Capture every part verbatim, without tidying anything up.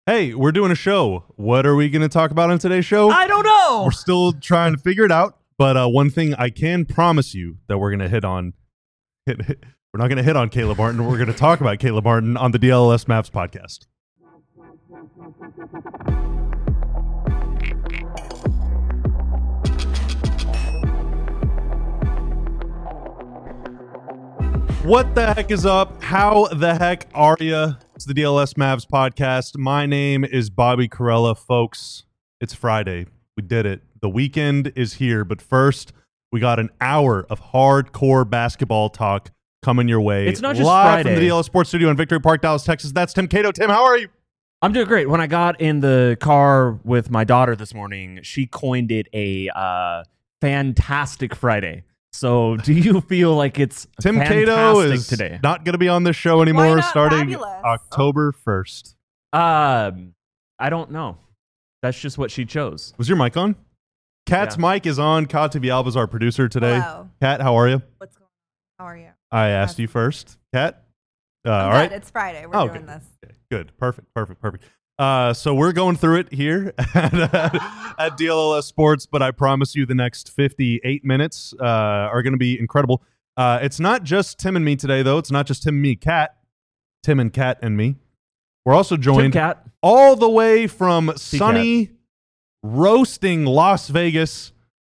Hey, we're doing a show. What are we going to talk about on today's show? I don't know. We're still trying to figure it out. But uh, one thing I can promise you that we're going to hit on, hit, hit, we're not going to hit on Caleb Martin. We're going to talk about Caleb Martin on the D L S Mavs podcast. What the heck is up? How the heck are you? It's the D L S Mavs podcast. My name is Bobby Corella, folks. It's Friday. We did it. The weekend is here, but first, we got an hour of hardcore basketball talk coming your way. It's not just live Friday. from the D L S Sports Studio in Victory Park, Dallas, Texas. That's Tim Cato. Tim, how are you? I'm doing great. When I got in the car with my daughter this morning, she coined it a uh, fantastic Friday. So do you feel like it's Tim fantastic Cato is today? not going to be on this show anymore not starting fabulous? October first. Um, I don't know. That's just what she chose. Was your mic on? Kat's Yeah. mic is on. Kat Villalba is our producer today. Hello. Kat, how are you? What's going on? How are you? I asked you first. Kat? Uh, I'm all good. right. It's Friday. We're Oh, doing okay. this. Okay, good. Perfect. Perfect. Perfect. Uh, so we're going through it here at, uh, at D L S Sports, but I promise you the next fifty-eight minutes uh, are going to be incredible. Uh, it's not just Tim and me today, though. It's not just Tim and me, Kat. Tim and Kat and me. We're also Tim joined Cat. all the way from sunny, roasting Las Vegas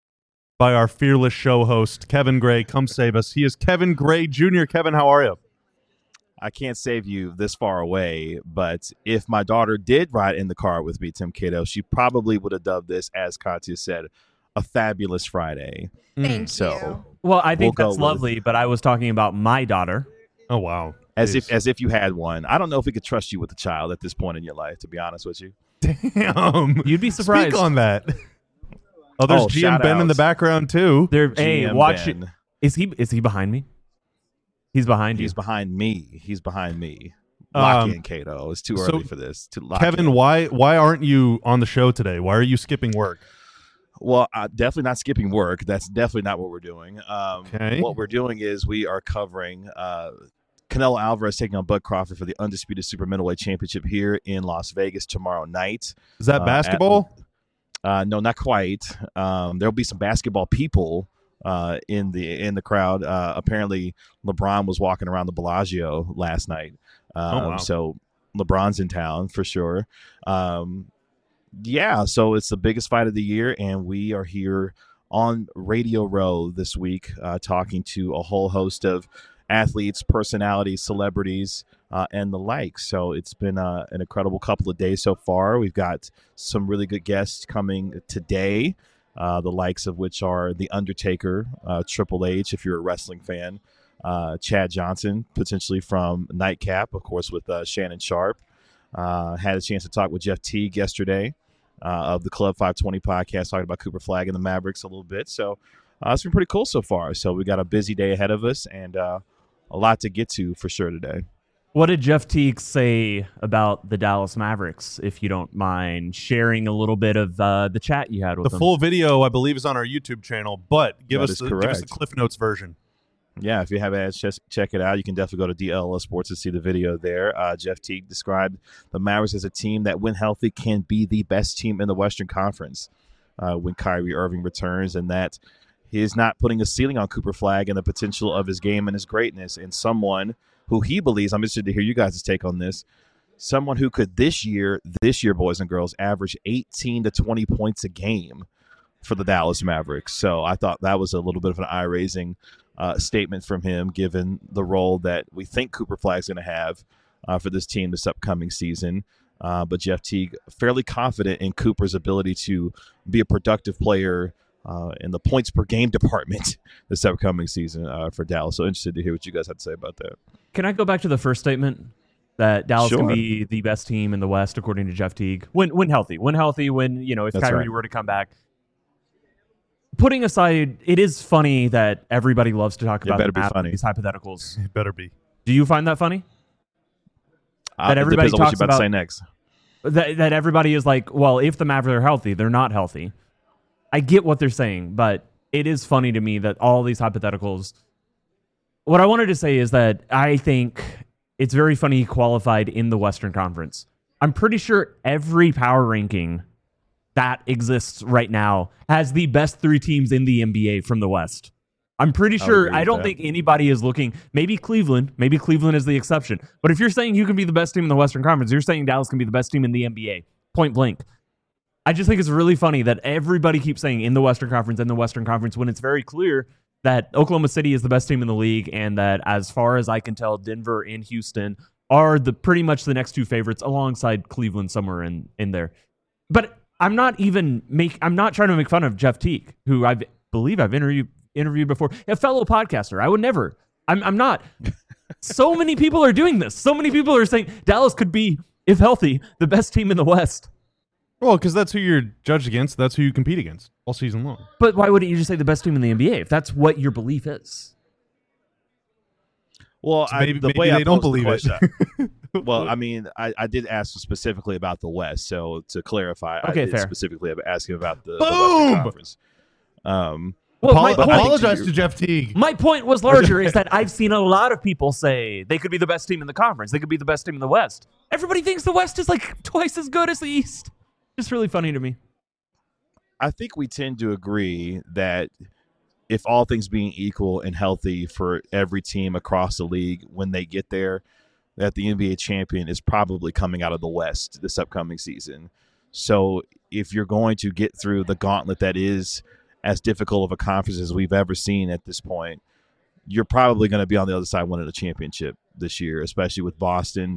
by our fearless show host, Kevin Gray. Come save us. He is Kevin Gray Junior Kevin, how are you? I can't save you this far away, but if my daughter did ride in the car with me, Tim Cato, she probably would have dubbed this, as Katya said, a fabulous Friday. Thank So- you. Well, I think We'll go that's with- lovely, but I was talking about my daughter. Oh, wow. As Jeez. if as if you had one. I don't know if we could trust you with a child at this point in your life, to be honest with you. Damn. You'd be surprised. Speak on that. Oh, there's Oh, G M shout Ben in the outs. background, too. There, hey, G M watch it. Ben. Is he? Is he behind me? He's behind you. He's behind me. He's behind me. Lock Um, in, Cato. It's too so, early for this. To lock Kevin, in. why why aren't you on the show today? Why are you skipping work? Well, uh, definitely not skipping work. That's definitely not what we're doing. Um, Okay. What we're doing is we are covering uh, Canelo Alvarez taking on Bud Crawford for the Undisputed Super Middleweight Championship here in Las Vegas tomorrow night. Is that Uh, basketball? Uh, no, not quite. Um, there'll be some basketball people uh, in the in the crowd. Uh, apparently, LeBron was walking around the Bellagio last night. Um, Oh, wow. So LeBron's in town for sure. Um, yeah, so it's the biggest fight of the year, and we are here on Radio Row this week uh, talking to a whole host of athletes, personalities, celebrities, uh, and the like. So it's been uh, an incredible couple of days so far. We've got some really good guests coming today, uh, the likes of which are The Undertaker, uh, Triple H, if you're a wrestling fan, uh, Chad Johnson, potentially from Nightcap, of course, with uh, Shannon Sharp. Uh, had a chance to talk with Jeff Teague yesterday uh, of the Club five twenty podcast, talking about Cooper Flagg and the Mavericks a little bit. So uh, it's been pretty cool so far. So we got a busy day ahead of us and uh, a lot to get to for sure today. What did Jeff Teague say about the Dallas Mavericks, if you don't mind sharing a little bit of uh, the chat you had with The him? full video, I believe, is on our YouTube channel, but give That us is the, give us the correct. Cliff Notes version. Yeah, if you haven't had ch- check it out, you can definitely go to D L S Sports to see the video there. Uh, Jeff Teague described the Mavericks as a team that, when healthy, can be the best team in the Western Conference uh, when Kyrie Irving returns, and that he is not putting a ceiling on Cooper Flagg and the potential of his game and his greatness, and someone who he believes, I'm interested to hear you guys' take on this, someone who could this year, this year, boys and girls, average eighteen to twenty points a game for the Dallas Mavericks. So I thought that was a little bit of an eye-raising uh, statement from him, given the role that we think Cooper Flagg's going to have uh, for this team this upcoming season. Uh, but Jeff Teague, fairly confident in Cooper's ability to be a productive player uh, in the points per game department this upcoming season uh, for Dallas. So interested to hear what you guys have to say about that. Can I go back to the first statement that Dallas Sure. can be the best team in the West, according to Jeff Teague, when when healthy, when healthy, when you know if That's Kyrie right. were to come back. Putting aside, it is funny that everybody loves to talk It about better the be math of funny. these hypotheticals. It better be. Do you find that funny? Uh, That it everybody depends on what talks you're about, to about- say next. That that everybody is like, well, if the Mavericks are healthy, they're not healthy. I get what they're saying, but it is funny to me that all these hypotheticals. What I wanted to say is that I think it's very funny he qualified in the Western Conference. I'm pretty sure every power ranking that exists right now has the best three teams in the N B A from the West. I'm pretty sure. I don't that. think anybody is looking. Maybe Cleveland. Maybe Cleveland is the exception. But if you're saying you can be the best team in the Western Conference, you're saying Dallas can be the best team in the N B A. Point blank. I just think it's really funny that everybody keeps saying in the Western Conference, in the Western Conference, when it's very clear that Oklahoma City is the best team in the league, and that, as far as I can tell, Denver and Houston are the pretty much the next two favorites, alongside Cleveland somewhere in in there. But I'm not even make. I'm not trying to make fun of Jeff Teague, who I believe I've interviewed interviewed before, a fellow podcaster. I would never. I'm. I'm not. So many people are doing this. So many people are saying Dallas could be, if healthy, the best team in the West. Well, because that's who you're judged against. That's who you compete against all season long. But why wouldn't you just say the best team in the N B A if that's what your belief is? Well, so I, maybe, the maybe way they I don't believe it. Well, I mean, I, I did ask specifically about the West. So to clarify, okay, I did fair. specifically ask him about the, Boom! the Western Conference. Um, well, Apolo- point, apologize to, to Jeff Teague. My point was larger is that I've seen a lot of people say they could be the best team in the conference. They could be the best team in the West. Everybody thinks the West is like twice as good as the East. Just really funny to me. I think we tend to agree that if all things being equal and healthy for every team across the league when they get there, that the N B A champion is probably coming out of the West this upcoming season. So if you're going to get through the gauntlet that is as difficult of a conference as we've ever seen at this point, you're probably going to be on the other side winning a championship this year, especially with Boston.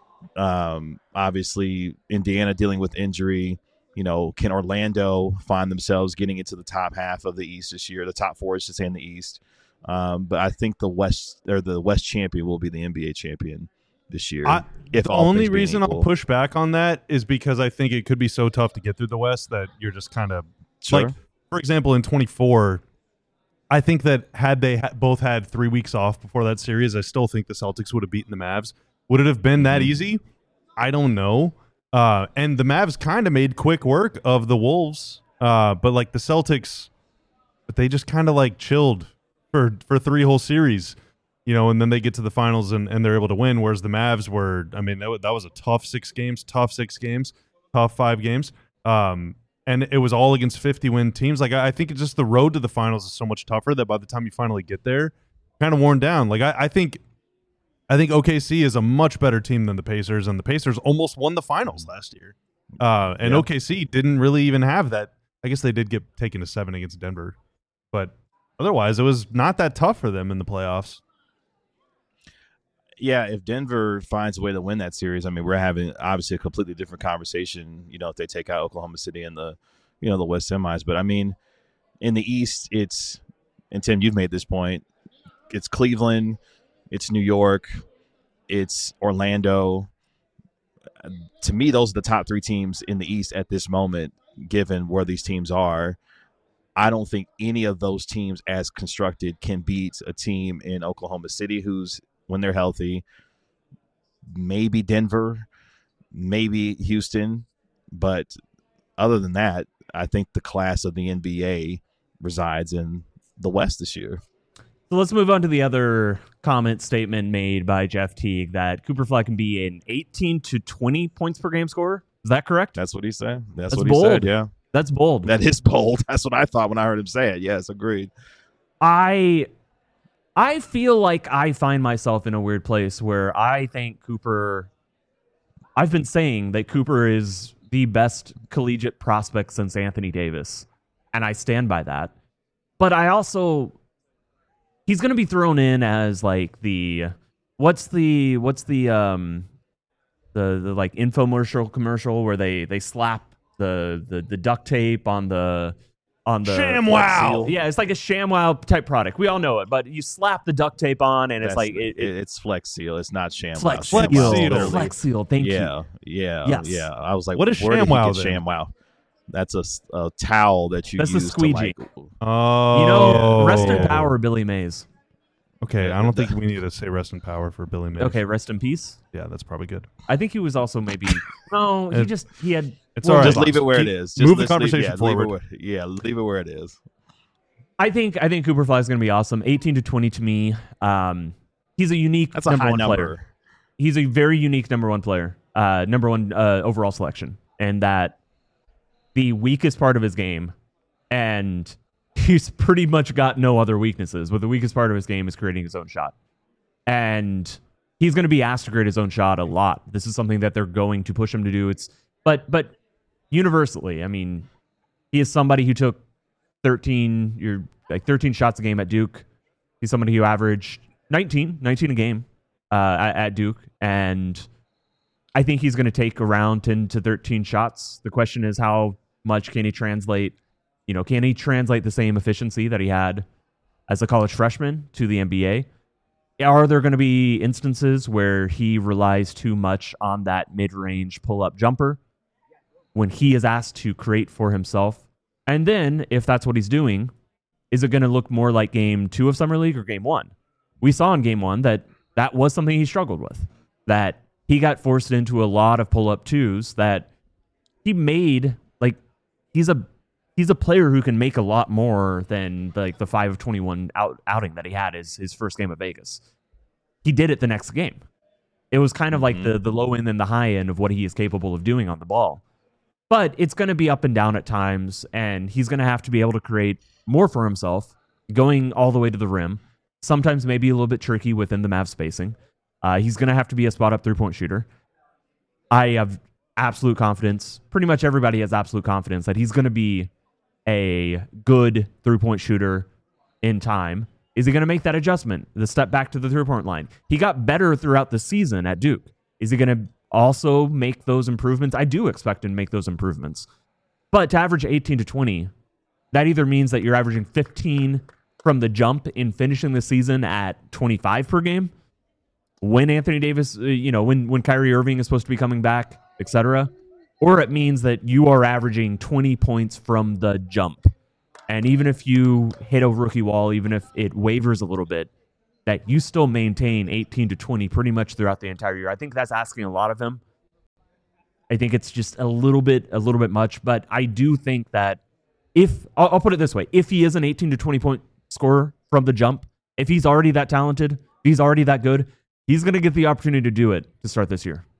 Um, obviously, Indiana dealing with injury. You know, can Orlando find themselves getting into the top half of the East this year? The top four is to say in the East. Um, but I think the West or the West champion will be the N B A champion this year. I, if the all only things being reason equal. I'll push back on that is because I think it could be so tough to get through the West that you're just kind of Sure. like, for example, in twenty-four, I think that had they ha- both had three weeks off before that series, I still think the Celtics would have beaten the Mavs. Would it have been that Mm-hmm. easy? I don't know. Uh, and the Mavs kind of made quick work of the Wolves, uh, but like the Celtics, but they just kind of like chilled for for three whole series, you know, and then they get to the finals and, and they're able to win. Whereas the Mavs were, I mean, that, w- that was a tough six games, tough six games, tough five games, um, and it was all against fifty win teams. Like I, I think it's just the road to the finals is so much tougher that by the time you finally get there, kind of worn down. Like I, I think. I think O K C is a much better team than the Pacers, and the Pacers almost won the finals last year. Uh, and Yeah. O K C didn't really even have that. I guess they did get taken to seven against Denver, but otherwise it was not that tough for them in the playoffs. Yeah, if Denver finds a way to win that series, I mean, we're having obviously a completely different conversation, you know, if they take out Oklahoma City in the, you know, the West semis. But I mean, in the East, it's, and Tim, you've made this point, it's Cleveland, it's New York, it's Orlando. To me, those are the top three teams in the East at this moment, given where these teams are. I don't think any of those teams as constructed can beat a team in Oklahoma City who's, when they're healthy, maybe Denver, maybe Houston. But other than that, I think the class of the N B A resides in the West this year. So let's move on to the other comment statement made by Jeff Teague that Cooper Flag can be an eighteen to twenty points per game scorer. Is that correct? That's what he said. That's, That's what bold. he said, yeah. That's bold. That is bold. That's what I thought when I heard him say it. Yes, agreed. I I feel like I find myself in a weird place where I think Cooper I've been saying that Cooper is the best collegiate prospect since Anthony Davis, and I stand by that. But I also he's going to be thrown in as like the what's the what's the um the the like infomercial commercial where they they slap the the the duct tape on the on the ShamWow. Yeah, it's like a ShamWow type product. We all know it, but you slap the duct tape on and it's That's- like it, it, it's Flex Seal. It's not ShamWow. Flex Flex Seal. Seal. literally. Flex Seal. Thank you. Yeah, yeah, Yes. yeah. I was like, What is where did he ShamWow get then? ShamWow? That's a, s- a towel that you That's the use squeegee. to like. Oh, You know, rest in power, Billy Mays. Okay, I don't think we need to say rest in power for Billy Mays. Okay, rest in peace. Yeah, that's probably good. I think he was also maybe no. He It- just he had. It's well, all right. Just leave it where it Keep- is. Just move the let's leave- conversation yeah, forward. Leave it where, yeah, leave it where it is. I think I think Cooper Fly is going to be awesome. eighteen to twenty to me. Um, he's a unique That's a number high one number. player. He's a very unique number one player. uh, number one uh, overall selection, and that the weakest part of his game, and he's pretty much got no other weaknesses, but the weakest part of his game is creating his own shot. And he's going to be asked to create his own shot a lot. This is something that they're going to push him to do. It's but but universally, I mean, he is somebody who took thirteen, you're like thirteen shots a game at Duke. He's somebody who averaged nineteen, nineteen a game uh, at, at Duke, and I think he's going to take around ten to thirteen shots. The question is, how much can he translate? You know, can he translate the same efficiency that he had as a college freshman to the N B A? Are there going to be instances where he relies too much on that mid-range pull-up jumper when he is asked to create for himself? And then, if that's what he's doing, is it going to look more like game two of Summer League or game one? We saw in game one that that was something he struggled with, that he got forced into a lot of pull-up twos that he made, like, he's a he's a player who can make a lot more than like the five of twenty-one out, outing that he had his, his first game at Vegas. He did it the next game. It was kind of mm-hmm. like the, the low end and the high end of what he is capable of doing on the ball. But it's going to be up and down at times, and he's going to have to be able to create more for himself, going all the way to the rim. Sometimes maybe a little bit tricky within the Mavs spacing. Uh, he's going to have to be a spot-up three-point shooter. I have absolute confidence. Pretty much everybody has absolute confidence that he's going to be a good three-point shooter in time. Is he going to make that adjustment, the step back to the three-point line? He got better throughout the season at Duke. Is he going to also make those improvements? I do expect him to make those improvements. But to average eighteen to twenty, that either means that you're averaging fifteen from the jump in finishing the season at twenty-five per game, when Anthony Davis, you know, when, when Kyrie Irving is supposed to be coming back, et cetera, or it means that you are averaging twenty points from the jump. And even if you hit a rookie wall, even if it wavers a little bit, that you still maintain eighteen to twenty pretty much throughout the entire year. I think that's asking a lot of him. I think it's just a little bit, a little bit much, but I do think that if, I'll, I'll put it this way, if he is an eighteen to twenty point scorer from the jump, if he's already that talented, if he's already that good, he's going to get the opportunity to do it to start this year.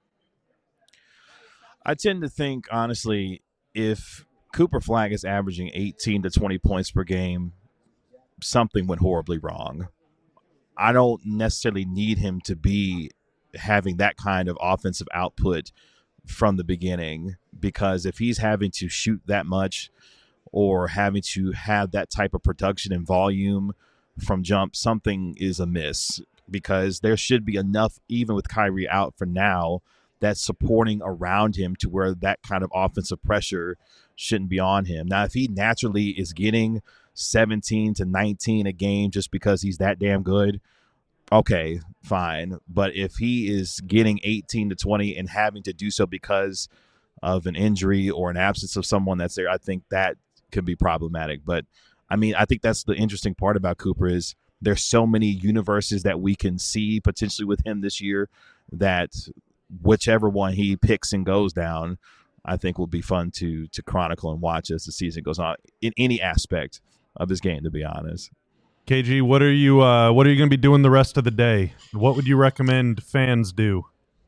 I tend to think, honestly, if Cooper Flagg is averaging eighteen to twenty points per game, something went horribly wrong. I don't necessarily need him to be having that kind of offensive output from the beginning, because if he's having to shoot that much or having to have that type of production and volume from jump, something is amiss, because there should be enough, even with Kyrie out for now, that's supporting around him to where that kind of offensive pressure shouldn't be on him. Now, if he naturally is getting seventeen to nineteen a game just because he's that damn good, okay, fine. But if he is getting eighteen to twenty and having to do so because of an injury or an absence of someone that's there, I think that could be problematic. But, I mean, I think that's the interesting part about Cooper is there's so many universes that we can see potentially with him this year that whichever one he picks and goes down, I think will be fun to to chronicle and watch as the season goes on in any aspect of his game, to be honest. K G, what are you uh, what are you going to be doing the rest of the day? What would you recommend fans do?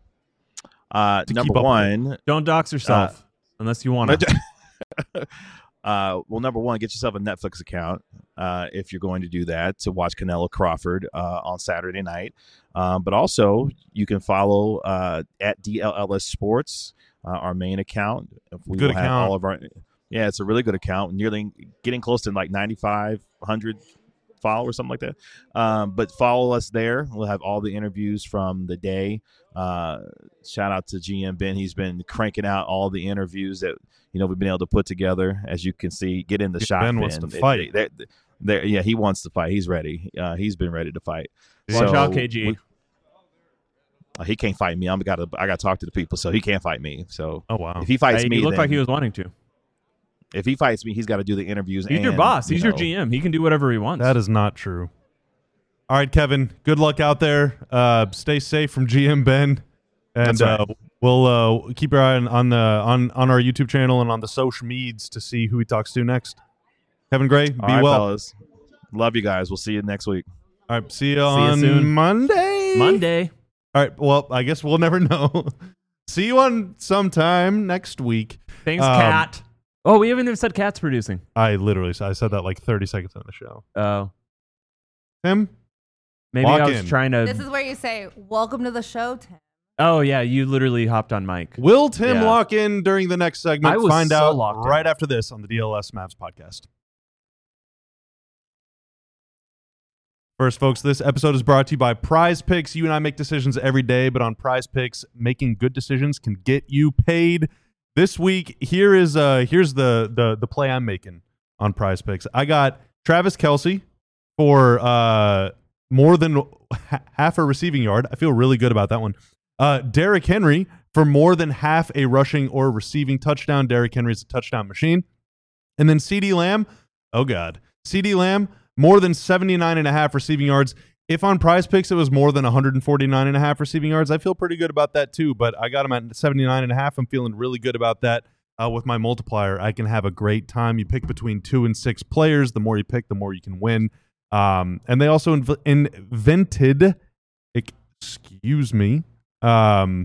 Uh, number one, don't dox yourself uh, unless you want to. uh, well, number one, get yourself a Netflix account uh, if you're going to do that, to watch Canelo Crawford uh, on Saturday night. Um, but also, you can follow uh, at D L L S Sports, uh, our main account. If we good will account. Have all of our, yeah, it's a really good account. Nearly getting close to like ninety-five hundred followers, something like that. Um, but follow us there. We'll have all the interviews from the day. Uh, shout out to G M Ben. He's been cranking out all the interviews that you know we've been able to put together. As you can see, get in the shot. Ben wants to fight. They, they, they, yeah, he wants to fight. He's ready. Uh, he's been ready to fight. Watch so, out, K G. We, uh, he can't fight me. I'm got to. I got to talk to the people, so he can't fight me. So, oh wow, if he fights hey, me, he looked then, like he was wanting to. If he fights me, he's got to do the interviews. He's and, your boss. He's you know, your G M. He can do whatever he wants. that is not true. All right, Kevin. Good luck out there. Uh, stay safe from G M Ben, and That's right. uh, we'll uh, keep your eye on, on the on on our YouTube channel and on the social medias to see who he talks to next. Kevin Gray, be All right, well. fellas. Love you guys. We'll see you next week. All right, see you See on you soon. Monday. Monday. All right. Well, I guess we'll never know. See you on sometime next week. Thanks, Um, Cat. Oh, we haven't even said Cat's producing. I literally I said that like thirty seconds on the show. Oh, Tim? maybe Lock I was in. trying to. This is where you say, welcome to the show, Tim. Oh yeah, you literally hopped on mic. Will Tim Yeah. lock in during the next segment? I was Find so out locked right in. after this on the D L S Mavs podcast. First, folks, this episode is brought to you by Prize Picks. You and I make decisions every day, but on Prize Picks, making good decisions can get you paid. This week, here is uh here's the the the play I'm making on Prize Picks. I got Travis Kelce for uh more than ha- half a receiving yard. I feel really good about that one. Uh, Derrick Henry for more than half a rushing or receiving touchdown. Derrick Henry's a touchdown machine. And then CeeDee Lamb, oh God, CeeDee Lamb, more than seventy-nine and a half receiving yards. If on Prize Picks it was more than one forty-nine and a half receiving yards, I feel pretty good about that too. But I got him at seventy-nine and a half. I'm feeling really good about that. Uh, with my multiplier, I can have a great time. You pick between two and six players. The more you pick, the more you can win. Um, and they also inv- invented, excuse me, um,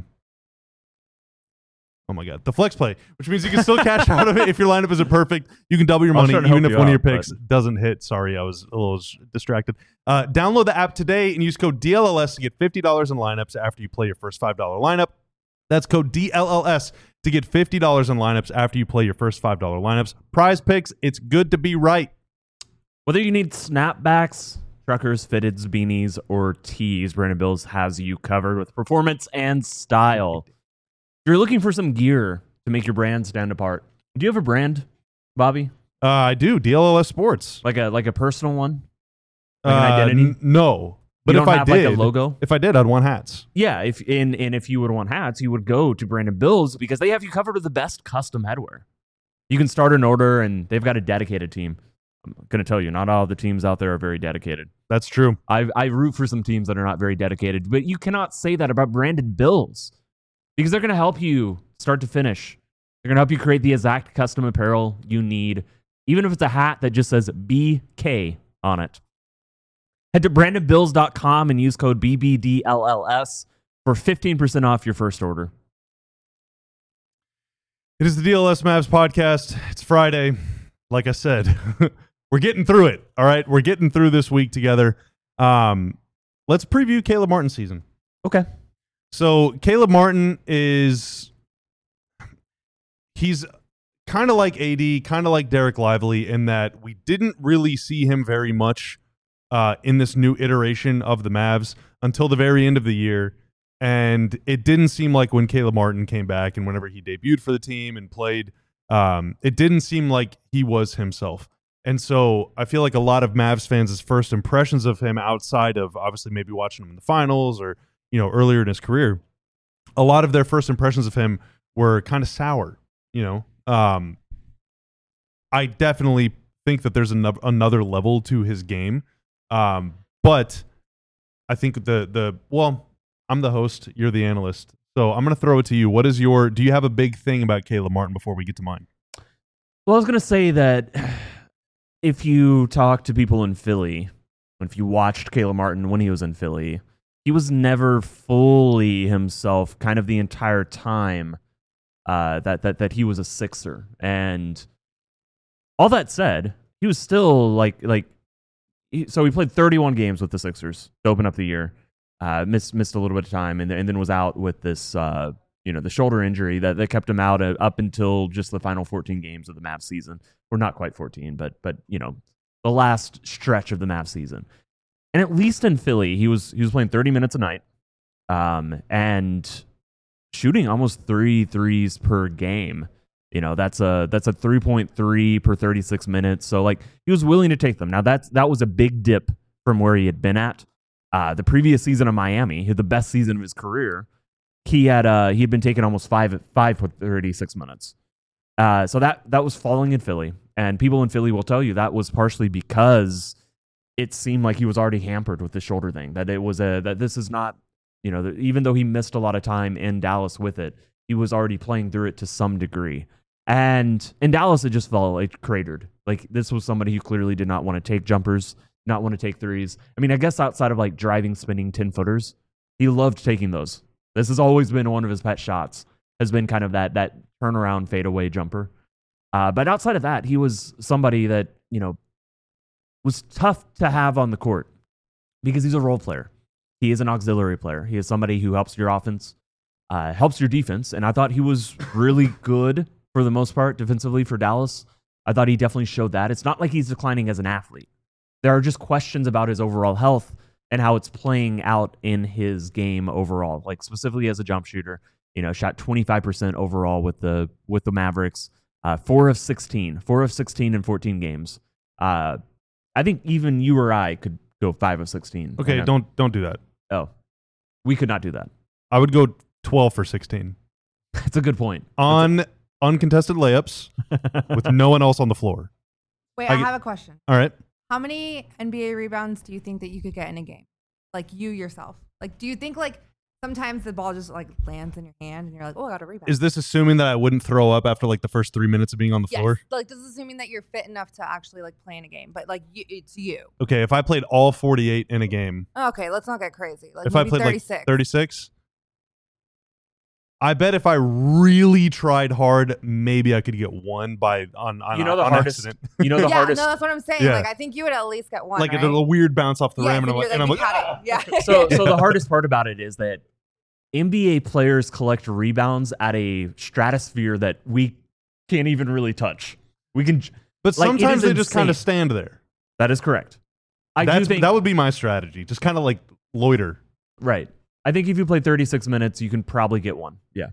oh my God, the flex play, which means you can still cash out of it if your lineup isn't perfect. You can double your I was money trying to even help if you one of your out, picks but- doesn't hit. Sorry, I was a little s- distracted. Uh, download the app today and use code D L L S to get fifty dollars in lineups after you play your first five dollar lineup. That's code D L L S to get fifty dollars in lineups after you play your first five dollar lineups. Prize Picks, it's good to be right. Whether you need snapbacks, truckers, fitteds, beanies, or tees, Brandon Bills has you covered with performance and style. If you're looking for some gear to make your brand stand apart, do you have a brand, Bobby? Uh, I do. D L L S Sports. Like a like a personal one? Like an Uh, identity? n- no. But you if don't I have did, like a logo? if I did, I'd want hats. Yeah, if and, and if you would want hats, you would go to Brandon Bills because they have you covered with the best custom headwear. You can start an order and they've got a dedicated team. I'm going to tell you, not all the teams out there are very dedicated. That's true. I I root for some teams that are not very dedicated, but you cannot say that about Brandon Bills because they're going to help you start to finish. They're going to help you create the exact custom apparel you need, even if it's a hat that just says B K on it. Head to brandon bills dot com and use code B B D L L S for fifteen percent off your first order. It is the D L S Mavs podcast. It's Friday. Like I said, we're getting through it. All right. We're getting through this week together. Um, let's preview Caleb Martin's season. Okay. So Caleb Martin is, he's kind of like A D, kind of like Derek Lively in that we didn't really see him very much uh, in this new iteration of the Mavs until the very end of the year. And it didn't seem like when Caleb Martin came back and whenever he debuted for the team and played, um, it didn't seem like he was himself. And so I feel like a lot of Mavs fans' first impressions of him outside of obviously maybe watching him in the finals or, you know, earlier in his career, a lot of their first impressions of him were kind of sour, you know. Um, I definitely think that there's another another level to his game. Um, but I think the the well, I'm the host, you're the analyst. So I'm going to throw it to you. What is your do you have a big thing about Caleb Martin before we get to mine? Well, I was going to say that if you talk to people in Philly, if you watched Caleb Martin when he was in Philly, he was never fully himself kind of the entire time uh, that, that, that he was a Sixer. And all that said, he was still like, like he, so he played thirty-one games with the Sixers to open up the year. Uh, missed missed a little bit of time, and, and then was out with this, uh, you know, the shoulder injury that, that kept him out uh, up until just the final fourteen games of the Mavs season, or not quite fourteen, but but you know, the last stretch of the Mavs season. And at least in Philly, he was he was playing thirty minutes a night, um, and shooting almost three threes per game. You know, that's a that's a three point three per thirty-six minutes. So like he was willing to take them. Now that's that was a big dip from where he had been at. Uh, the previous season of Miami, he had the best season of his career. He had uh, he had been taking almost five five for thirty-six minutes. Uh, so that that was falling in Philly, and people in Philly will tell you that was partially because it seemed like he was already hampered with the shoulder thing. That it was a that this is not, you know, even though he missed a lot of time in Dallas with it, he was already playing through it to some degree. And in Dallas, it just felt like cratered. Like this was somebody who clearly did not want to take jumpers, not want to take threes. I mean, I guess outside of like driving, spinning ten footers, he loved taking those. This has always been one of his pet shots, has been kind of that that turnaround fadeaway jumper. Uh, but outside of that, he was somebody that, you know, was tough to have on the court because he's a role player. He is an auxiliary player. He is somebody who helps your offense, uh, helps your defense. And I thought he was really good for the most part defensively for Dallas. I thought he definitely showed that. It's not like he's declining as an athlete. There are just questions about his overall health and how it's playing out in his game overall, like specifically as a jump shooter. You know, shot twenty-five percent overall with the with the Mavericks. Uh, four of sixteen. Four of sixteen in fourteen games. Uh, I think even you or I could go five of sixteen. Okay, don't don't do that. Oh, we could not do that. I would go twelve for sixteen. That's a good point. On a- uncontested layups with no one else on the floor. Wait, I I, get- have a question. All right. How many N B A rebounds do you think that you could get in a game? Like you yourself. Like, do you think like sometimes the ball just like lands in your hand and you're like, oh, I got a rebound? Is this assuming that I wouldn't throw up after like the first three minutes of being on the yes. floor? Like, this is assuming that you're fit enough to actually like play in a game, but like you, it's you. Okay, if I played all forty-eight in a game, Okay, let's not get crazy. Like if I maybe played thirty-six. like thirty-six, I bet if I really tried hard, maybe I could get one by on on, You know the on hardest- accident. You know the yeah, hardest. no, that's what I'm saying. Yeah. Like, I think you would at least get one. like right? a, a weird bounce off the Yes, rim, and I'm you're like, and I'm you like, got "Ah!" it. Yeah. So, so the hardest part about it is that N B A players collect rebounds at a stratosphere that we can't even really touch. We can. But Like, it sometimes is they just kind of insane. stand there. That is correct. I do That's, think that would be my strategy. Just kind of like loiter. right. I think if you play thirty-six minutes, you can probably get one. Yeah.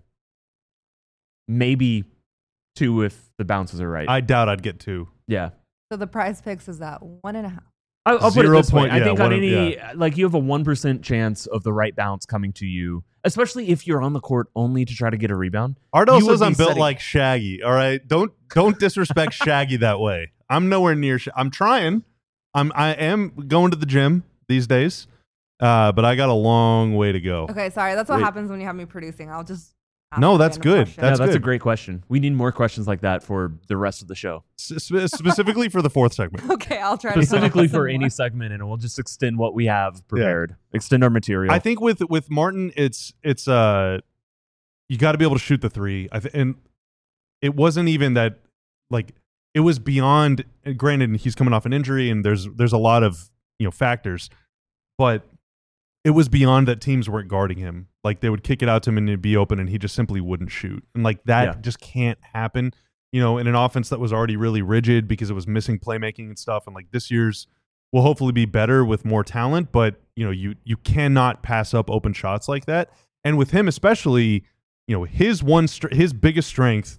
Maybe two if the bounces are right. I doubt I'd get two. yeah. So the prize picks is at one and a half. I'll, I'll put it Zero this way. point- I yeah, think on one- any, like you have a one percent chance of the right bounce coming to you, especially if you're on the court only to try to get a rebound. Ardo You would says be I'm built setting- like Shaggy. All right, don't don't disrespect Shaggy that way. I'm nowhere near. Sh- I'm trying. I'm I am going to the gym these days, uh, but I got a long way to go. Okay, sorry. That's what Wait. happens when you have me producing. I'll just. ask No, a that's random good. question. That's yeah, that's a good. great question. We need more questions like that for the rest of the show, S- spe- specifically for the fourth segment. Okay, I'll try. to specifically come for up with any some segment, and we'll just extend what we have prepared, extend our material. I think with with Martin, it's it's uh, you got to be able to shoot the three. I th- and it wasn't even that like it was beyond. Granted, he's coming off an injury, and there's there's a lot of you know factors, but it was beyond that teams weren't guarding him. Like they would kick it out to him and it'd be open, and he just simply wouldn't shoot. And like that Yeah. just can't happen. You know, in an offense that was already really rigid because it was missing playmaking and stuff. And like this year's will hopefully be better with more talent, but you know, you you cannot pass up open shots like that. And with him especially, you know, his one str- his biggest strength,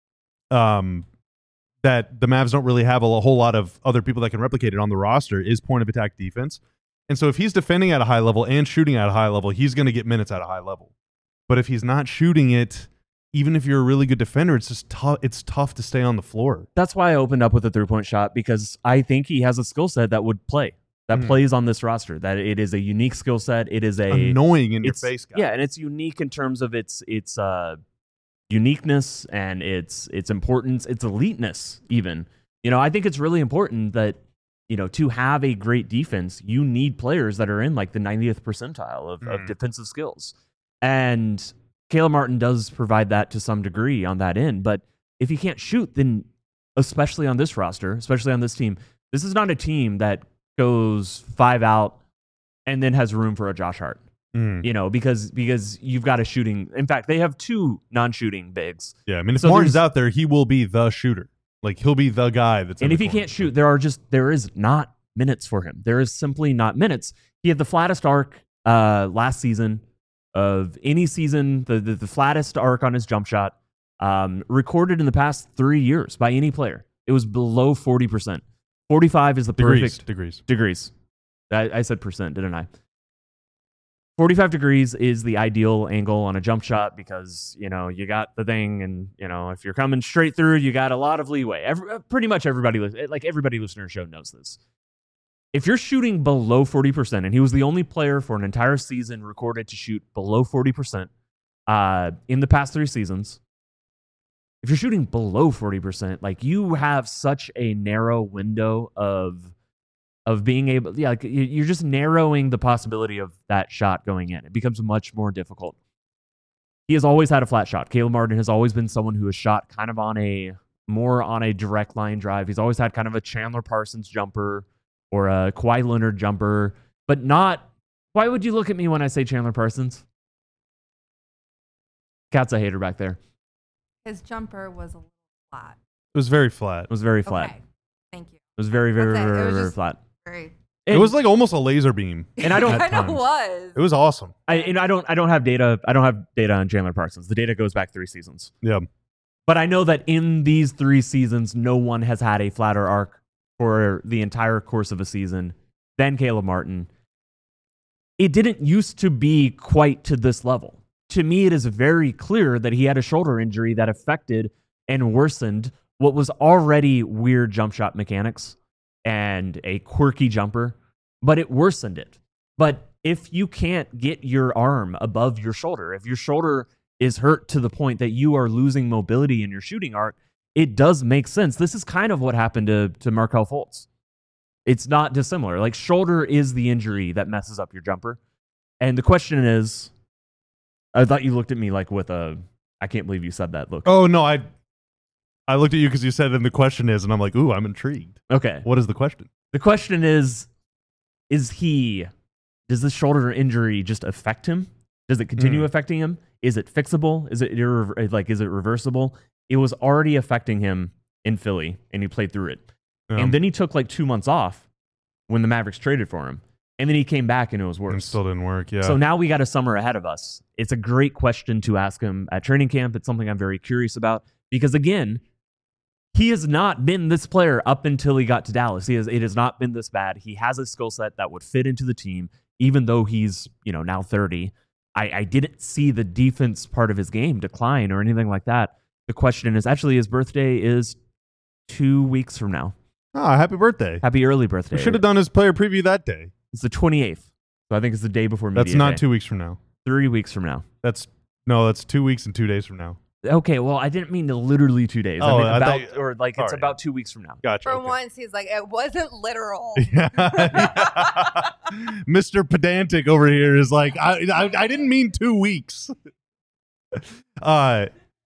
um, that the Mavs don't really have a whole lot of other people that can replicate it on the roster is point of attack defense. And so if he's defending at a high level and shooting at a high level, he's going to get minutes at a high level. But if he's not shooting it, even if you're a really good defender, it's just tough. It's tough to stay on the floor. that's why I opened up with a three point shot, because I think he has a skill set that would play, that Mhm. plays on this roster. That it is a unique skill set. It is a Annoying in your it's- face, guy. Yeah, and it's unique in terms of its its uh, uniqueness and its its importance, its eliteness. Even you know, I think it's really important that you know to have a great defense, you need players that are in like the ninetieth percentile of, of Mhm. defensive skills, and Caleb Martin does provide that to some degree on that end. But if he can't shoot, then especially on this roster, especially on this team, this is not a team that goes five out and then has room for a Josh Hart. Mm. You know, because because you've got a shooting. In fact, they have two non-shooting bigs. Yeah, I mean, if So Martin's there's- out there, he will be the shooter. Like he'll be the guy that's. in And the if he corner. can't shoot, there are just there is not minutes for him. There is simply not minutes. He had the flattest arc uh, last season of any season, the, the the flattest arc on his jump shot um, recorded in the past three years by any player. It was below forty percent. forty-five is the degrees, perfect degrees. degrees. I, I said percent, didn't I? forty-five degrees is the ideal angle on a jump shot because, you know, you got the thing and, you know, if you're coming straight through, you got a lot of leeway. Every, pretty much everybody, li- like everybody listening to the show knows this. If you're shooting below forty percent, and he was the only player for an entire season recorded to shoot below forty percent uh, in the past three seasons, if you're shooting below forty percent, like you have such a narrow window of of being able, yeah, like you- you're just narrowing the possibility of that shot going in. It becomes much more difficult. he has always had a flat shot. Caleb Martin has always been someone who has shot kind of on a more on a direct line drive. He's always had kind of a Chandler Parsons jumper or a Kawhi Leonard jumper, but not. Why would you look at me when I say Chandler Parsons? Cat's a hater back there. His jumper was a little flat. It was very flat. It was very flat. Okay. Thank you. It was very, very, That's it. It very, was very just- flat. Very. It was like almost a laser beam. And I don't. I know times. it was. It was awesome. I, and I don't. I don't have data. I don't have data on Chandler Parsons. The data goes back three seasons. Yeah. But I know that in these three seasons, no one has had a flatter arc for the entire course of a season than Caleb Martin. It didn't used to be quite to this level. To me, it is very clear that he had a shoulder injury that affected and worsened what was already weird jump shot mechanics and a quirky jumper, but it worsened it. But if you can't get your arm above your shoulder, if your shoulder is hurt to the point that you are losing mobility in your shooting arc, it does make sense. This is kind of what happened to, to Markelle Fultz. It's not dissimilar. Like, shoulder is the injury that messes up your jumper. And the question is, I thought you looked at me like with a, I can't believe you said that look. Oh, no, I I looked at you because you said, and the question is, and I'm like, ooh, I'm intrigued. Okay. What is the question? The question is, is he, does this shoulder injury just affect him? Does it continue Mm. affecting him? Is it fixable? Is it irre- like, is it reversible? It was already affecting him in Philly, and he played through it. Um, And then he took like two months off when the Mavericks traded for him. And then he came back and it was and worse. still didn't work. Yeah. So now we got a summer ahead of us. It's a great question to ask him at training camp. It's something I'm very curious about because, again, he has not been this player up until he got to Dallas. He has, it has not been this bad. He has a skill set that would fit into the team, even though he's, you know, now thirty. I, I didn't see the defense part of his game decline or anything like that. The question is, actually, his birthday is two weeks from now. Ah, happy birthday. Happy early birthday. We should have done his player preview that day. It's the twenty-eighth. So I think it's the day before media That's not day. two weeks from now. Three weeks from now. That's no, that's two weeks and two days from now. Okay, well, I didn't mean to literally two days. I Oh, mean I about, thought- or like it's sorry. about two weeks from now. Gotcha. For okay. once, he's like, it wasn't literal. Yeah. Mister Pedantic over here is like, I, I, I didn't mean two weeks. uh,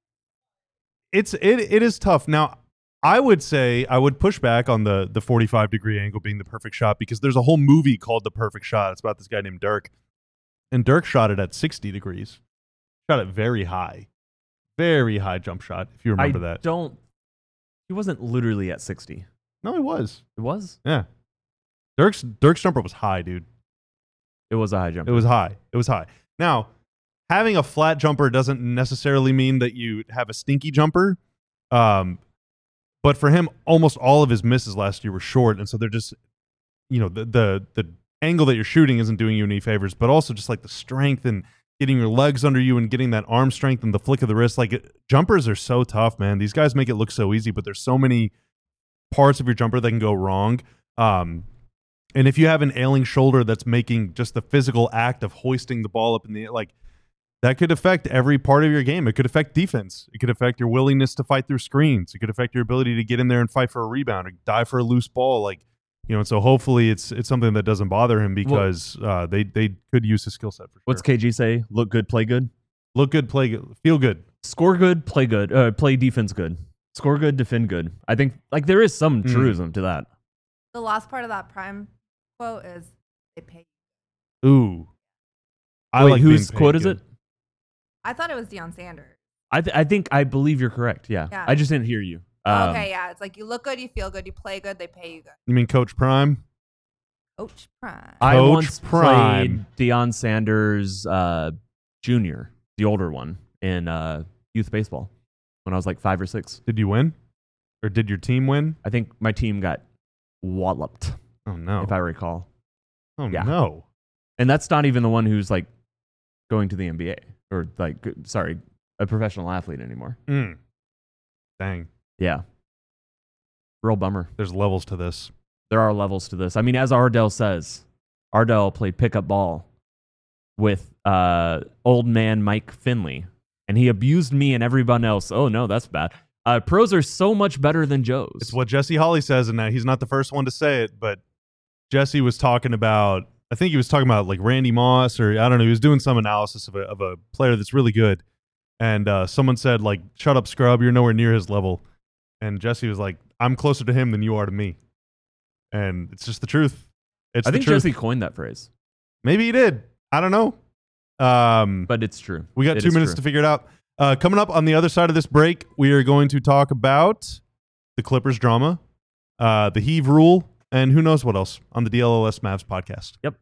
it's it it is tough. Now, I would say I would push back on the the forty-five degree angle being the perfect shot because there's a whole movie called The Perfect Shot. It's about this guy named Dirk, and Dirk shot it at sixty degrees. Shot it very high, very high jump shot. If you remember I that, don't. He wasn't literally at sixty. no, he was. It was. Yeah, Dirk's Dirk's jumper was high, dude. It was a high jump. It was high. It was high. Now, having a flat jumper doesn't necessarily mean that you have a stinky jumper. Um, but for him, almost all of his misses last year were short, and so they're just, you know, the the the angle that you're shooting isn't doing you any favors, but also just like the strength and getting your legs under you and getting that arm strength and the flick of the wrist. Like it, jumpers are so tough, man. These guys make it look so easy, but there's so many parts of your jumper that can go wrong. Um, and if you have an ailing shoulder that's making just the physical act of hoisting the ball up in the air, like that could affect every part of your game. It could affect defense. It could affect your willingness to fight through screens. It could affect your ability to get in there and fight for a rebound or die for a loose ball. Like, you know, and so hopefully it's it's something that doesn't bother him because uh, they they could use his skill set for sure. What's K G say? Look good, play good. Look good, play good, feel good. Score good, play good. Uh, play defense good. Score good, defend good. I think like there is some Mm. truism to that. The last part of that prime quote is they pay. Ooh, I Wait, like whose being paid quote is good. it? I thought it was Deion Sanders. I th- I think I believe you're correct. Yeah. Yeah. I just didn't hear you. Um, okay, yeah. It's like you look good, you feel good, you play good, they pay you good. You mean Coach Prime? Coach Prime. I Coach once Prime. played Deion Sanders uh, Junior, the older one, in uh, youth baseball when I was like five or six. Did you win, or did your team win? I think my team got walloped, Oh no! if I recall. oh yeah. no! And that's not even the one who's like going to the N B A or like, sorry, a professional athlete anymore. Mm. Dang, Yeah. Real bummer. there's levels to this. There are levels to this. I mean, as Ardell says, Ardell played pickup ball with uh, old man Mike Finley, and he abused me and everyone else. Oh, no, that's bad. Uh, pros are so much better than Joes. It's what Jesse Holly says, and uh, he's not the first one to say it, but Jesse was talking about, I think he was talking about like Randy Moss, or I don't know, he was doing some analysis of a, of a player that's really good. and uh, someone said like, "Shut up, scrub. You're nowhere near his level." And Jesse was like, "I'm closer to him than you are to me," and it's just the truth. It's I the think truth. Jesse coined that phrase. Maybe he did. I don't know. Um, But it's true. we got It two is minutes true. to figure it out. Uh, coming up on the other side of this break, we are going to talk about the Clippers drama, uh, the heave rule, and who knows what else on the D L L S Mavs podcast. Yep.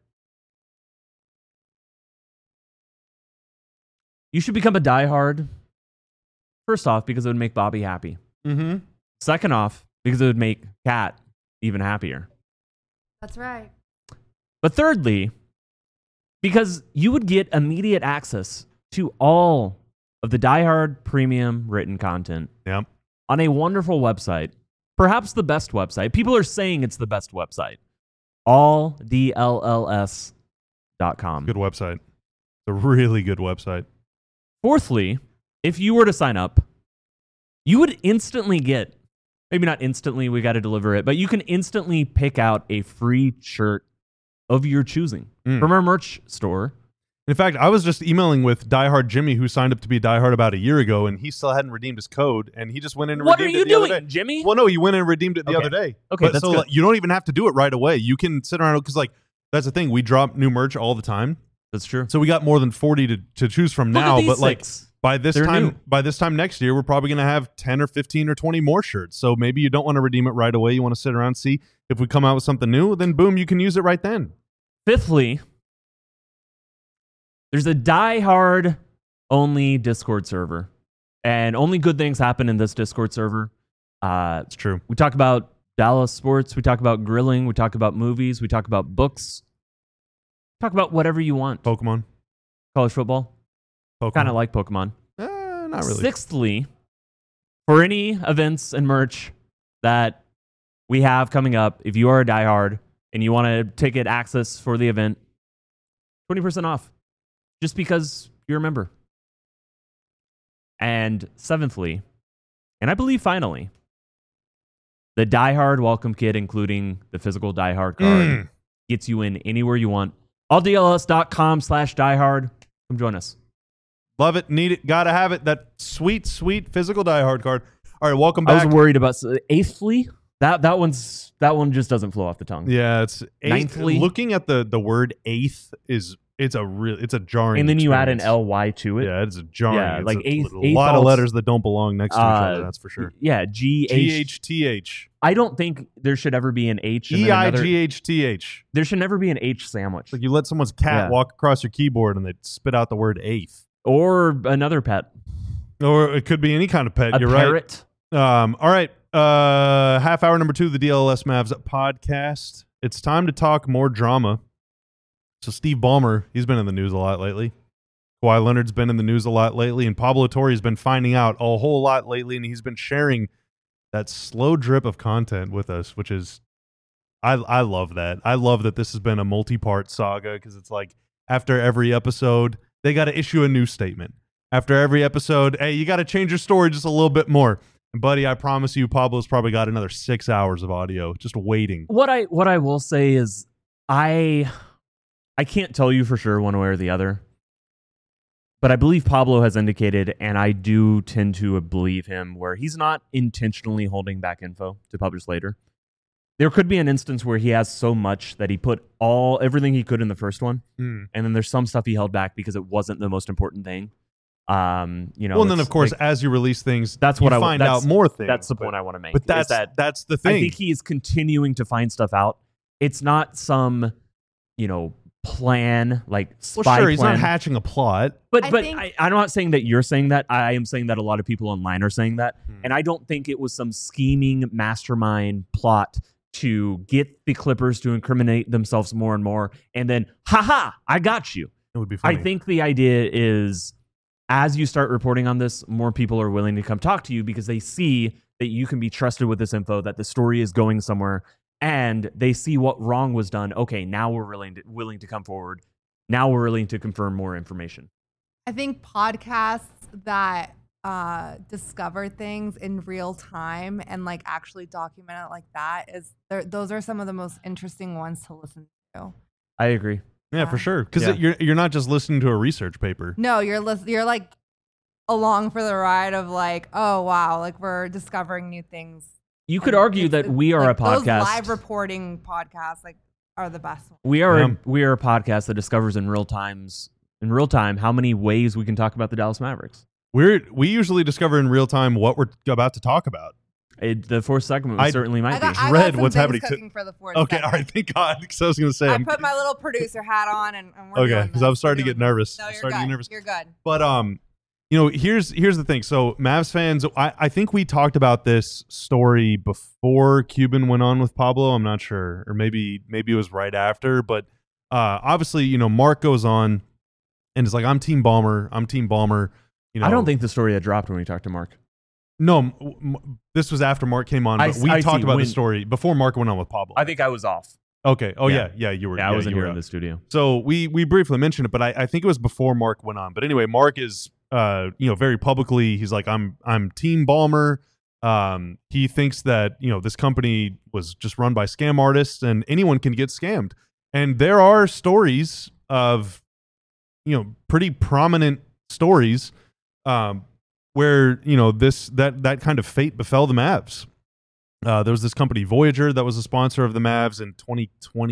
You should become a diehard. First off, because it would make Bobby happy. Mm-hmm. Second off, because it would make Kat even happier. That's right. But thirdly, because you would get immediate access to all of the diehard premium written content Yep. on a wonderful website, perhaps the best website. People are saying it's the best website. all D L L S dot com. Good website. It's a really good website. Fourthly, if you were to sign up, you would instantly get, maybe not instantly, we got to deliver it, but you can instantly pick out a free shirt of your choosing Mm. from our merch store. In fact, I was just emailing with Diehard Jimmy, who signed up to be Diehard about a year ago, and he still hadn't redeemed his code, and he just went in and What are redeemed you it the other doing, day. Jimmy? Well, no, he went in and redeemed it the Okay. other day. Okay, But that's so good. like, you don't even have to do it right away. You can sit around because like that's the thing. We drop new merch all the time, That's true. so we got more than forty to, to choose from Look at now. these But like six. by this They're time, new. by this time next year, we're probably going to have ten or fifteen or twenty more shirts. So maybe you don't want to redeem it right away. You want to sit around, see if we come out with something new. Then boom, you can use it right then. Fifthly, there's a diehard only Discord server, and only good things happen in this Discord server. Uh, It's true. we talk about Dallas sports, we talk about grilling, we talk about movies, we talk about books, talk about whatever you want. Pokemon. College football, Pokemon. kind of like Pokemon. Eh, not really. Sixthly, for any events and merch that we have coming up, if you are a diehard and you want to ticket access for the event, twenty percent off just because you're a member. And seventhly, and I believe finally, the diehard welcome kit, including the physical diehard card, Mm. gets you in anywhere you want. all D L S dot com slash diehard. Come join us. Love it, need it, gotta have it. That sweet, sweet physical diehard card. All right, welcome I back. was worried about eighthly. That that one's that one just doesn't flow off the tongue. Yeah, it's eighth. Ninthly. Looking at the the word eighth is it's a real it's a jarring. And then you add an experience. L Y to it. Yeah, it's a jarring. Yeah, it's like a, eighth- a eighth lot of also- letters that don't belong next to each Uh, other. That's for sure. Yeah, G G H. H T H I don't think there should ever be an H. and E then I another- G H T H. There should never be an H sandwich. Like you let someone's cat Yeah. walk across your keyboard and they spit out the word eighth. Or another pet. Or it could be any kind of pet. A You're parrot. right. Um, all right. Uh, half hour number two of the D L L S Mavs podcast. It's time to talk more drama. So Steve Ballmer, he's been in the news a lot lately. Kawhi Leonard's been in the news a lot lately, and Pablo Torre's been finding out a whole lot lately, and he's been sharing that slow drip of content with us, which is I I love that. I love that this has been a multi-part saga because it's like after every episode, they got to issue a new statement. After every episode, hey, you got to change your story just a little bit more. And buddy, I promise you, Pablo's probably got another six hours of audio just waiting. What I what I will say is I I can't tell you for sure one way or the other. But I believe Pablo has indicated, and I do tend to believe him, where he's not intentionally holding back info to publish later. There could be an instance where he has so much that he put all everything he could in the first one, Mm. and then there's some stuff he held back because it wasn't the most important thing. Um, you know, Well, and then it's of course, like- as you release things, That's you what I w- find that's- out more things. that's the but- point I want to make. But is that's that that's the thing. I think he is continuing to find stuff out. It's not some, you know, plan like well, spy sure, he's plan. not hatching a plot. but I but think- I, I'm not saying that you're saying that. I am saying that a lot of people online are saying that, Hmm. and I don't think it was some scheming mastermind plot to get the Clippers to incriminate themselves more and more, and then, haha, I got you. It would be funny. I think the idea is, as you start reporting on this, more people are willing to come talk to you because they see that you can be trusted with this info, that the story is going somewhere, and they see what wrong was done. Okay, now we're willing to, willing to come forward. Now we're willing to confirm more information. I think podcasts that uh, discover things in real time and like actually document it like that is they're- those are some of the most interesting ones to listen to. I agree. yeah, for Yeah. sure. Because Yeah. you're you're not just listening to a research paper. No, you're lis- you're like along for the ride of like, oh wow, like we're discovering new things. You could And argue it's- that we are like, a podcast. Those live reporting podcasts like are the best ones. We are Yeah. a, we are a podcast that discovers in real times in real time how many ways we can talk about the Dallas Mavericks. We're we usually discover in real time what we're about to talk about. It, the fourth segment I- certainly might I got, be. I Dread got some what's things happening to- cooking for the fourth Okay, segment. all right, thank God. Because I was going to say, I I'm, put my little producer hat on, and, and we're okay, doing because this. I'm starting to We're get doing nervous. this. No, I'm you're starting to good. get nervous. You're good. But um, you know, here's here's the thing. So Mavs fans, I, I think we talked about this story before Cuban went on with Pablo. I'm not sure, or maybe maybe it was right after. But uh, obviously, you know, Mark goes on and is like, "I'm Team Balmer. I'm Team Balmer." You know, I don't think the story had dropped when we talked to Mark. No, m- m- this was after Mark came on. I But s- we I talked see. about When- the story before Mark went on with Pablo. I think I was off. Okay. Oh yeah, Yeah. yeah, you were. Yeah, I wasn't you here were in out. the studio. So we we briefly mentioned it, but I, I think it was before Mark went on. But anyway, Mark is uh you know very publicly he's like I'm I'm Team Balmer. Um, he thinks that you know this company was just run by scam artists and anyone can get scammed. And there are stories of you know pretty prominent stories um where you know this that that kind of fate befell the Mavs. Uh, there was this company Voyager that was a sponsor of the Mavs in twenty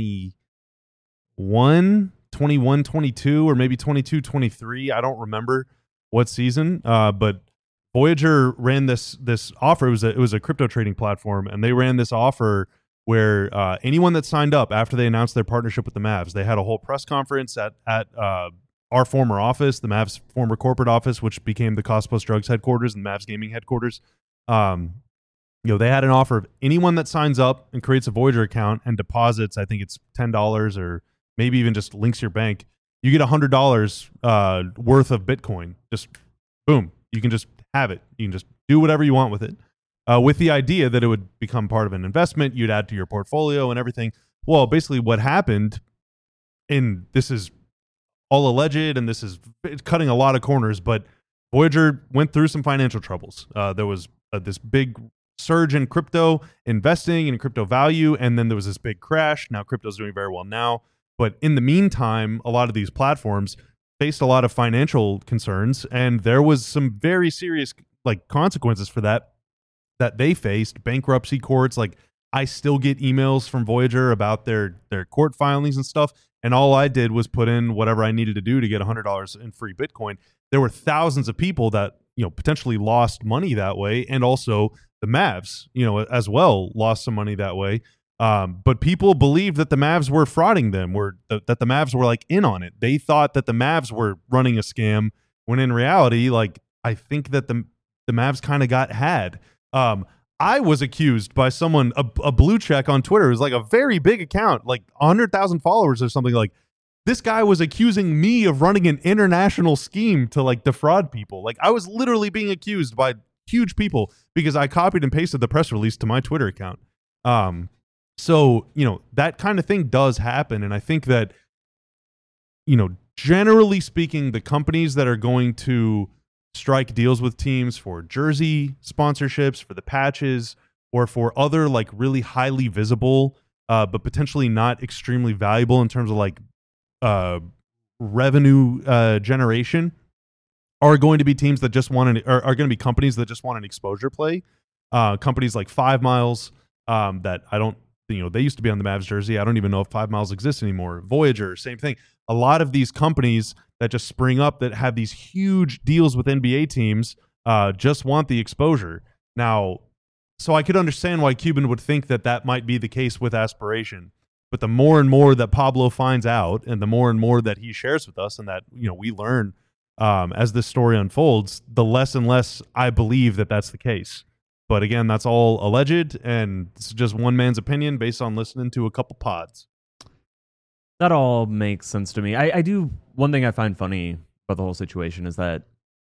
twenty-one, twenty-one, twenty-two, or maybe twenty-two, twenty-three. I don't remember what season, uh, but Voyager ran this this offer. It was a, it was a crypto trading platform, and they ran this offer where uh, anyone that signed up after they announced their partnership with the Mavs, they had a whole press conference at at uh, our former office, the Mavs' former corporate office, which became the Cost Plus Drugs headquarters and Mavs Gaming headquarters. Um, you know, they had an offer of anyone that signs up and creates a Voyager account and deposits, I think it's ten dollars or maybe even just links your bank, you get one hundred dollars uh, worth of Bitcoin. Just boom. You can just have it. You can just do whatever you want with it. Uh, with the idea that it would become part of an investment, you'd add to your portfolio and everything. Well, basically what happened, and this is all alleged, and this is cutting a lot of corners, but Voyager went through some financial troubles. Uh, there was uh, this big surge in crypto investing and crypto value, and then there was this big crash. Now crypto's doing very well now, but in the meantime, a lot of these platforms faced a lot of financial concerns, and there was some very serious like consequences for that that they faced. Bankruptcy courts. Like I still get emails from Voyager about their their court filings and stuff, and all I did was put in whatever I needed to do to get one hundred dollars in free Bitcoin. There were thousands of people that you know potentially lost money that way, and also the Mavs, you know, as well lost some money that way. Um, but people believed that the Mavs were frauding them, were th- that the Mavs were like in on it. They thought that the Mavs were running a scam, when in reality, like I think that the the Mavs kind of got had. Um, I was accused by someone, a, a blue check on Twitter. It was like a very big account, like one hundred thousand followers or something. Like this guy was accusing me of running an international scheme to like defraud people. Like I was literally being accused by huge people because I copied and pasted the press release to my Twitter account. Um, so, you know, that kind of thing does happen. And I think that, you know, generally speaking, the companies that are going to strike deals with teams for jersey sponsorships, for the patches, or for other like really highly visible, uh, but potentially not extremely valuable in terms of like uh, revenue uh, generation, are going to be teams that just want an, are, are going to be companies that just want an exposure play. Uh, companies like Five Miles, um, that I don't, you know, they used to be on the Mavs jersey. I don't even know if Five Miles exists anymore. Voyager, same thing. A lot of these companies that just spring up that have these huge deals with N B A teams uh, just want the exposure. Now, so I could understand why Cuban would think that that might be the case with Aspiration. But the more and more that Pablo finds out, and the more and more that he shares with us, and that you know we learn um, as this story unfolds, the less and less I believe that that's the case. But again, that's all alleged, and it's just one man's opinion based on listening to a couple pods. That all makes sense to me. I, I do. One thing I find funny about the whole situation is that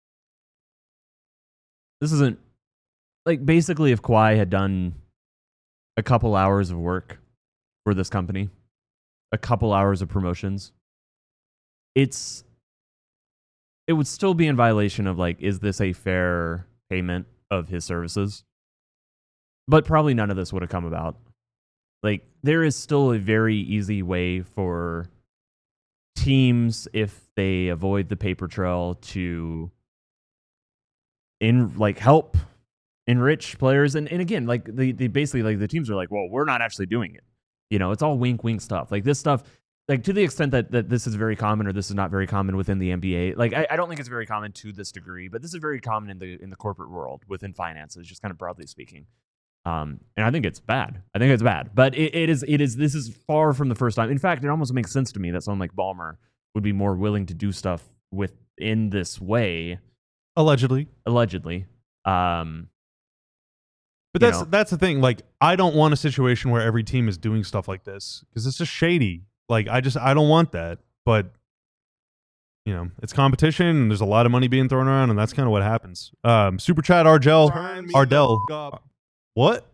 this isn't like basically if Kawhi had done a couple hours of work for this company, a couple hours of promotions, it's it would still be in violation of like, is this a fair payment of his services? But probably none of this would have come about. Like, there is still a very easy way for teams, if they avoid the paper trail, to in like help enrich players. And, and again, like the, the basically like the teams are like, well, we're not actually doing it. You know, it's all wink, wink stuff. Like this stuff, like to the extent that, that this is very common or this is not very common within the N B A. Like I, I don't think it's very common to this degree, but this is very common in the in the corporate world within finances, just kind of broadly speaking. Um, and I think it's bad. I think it's bad. But it, it is it is this is far from the first time. In fact, it almost makes sense to me that someone like Ballmer would be more willing to do stuff within this way. Allegedly. Allegedly. Um But that's know. that's the thing. Like, I don't want a situation where every team is doing stuff like this because it's just shady. Like, I just I don't want that. But you know, it's competition, and there's a lot of money being thrown around, and that's kind of what happens. Um, Super Chat Argel Ardell. What?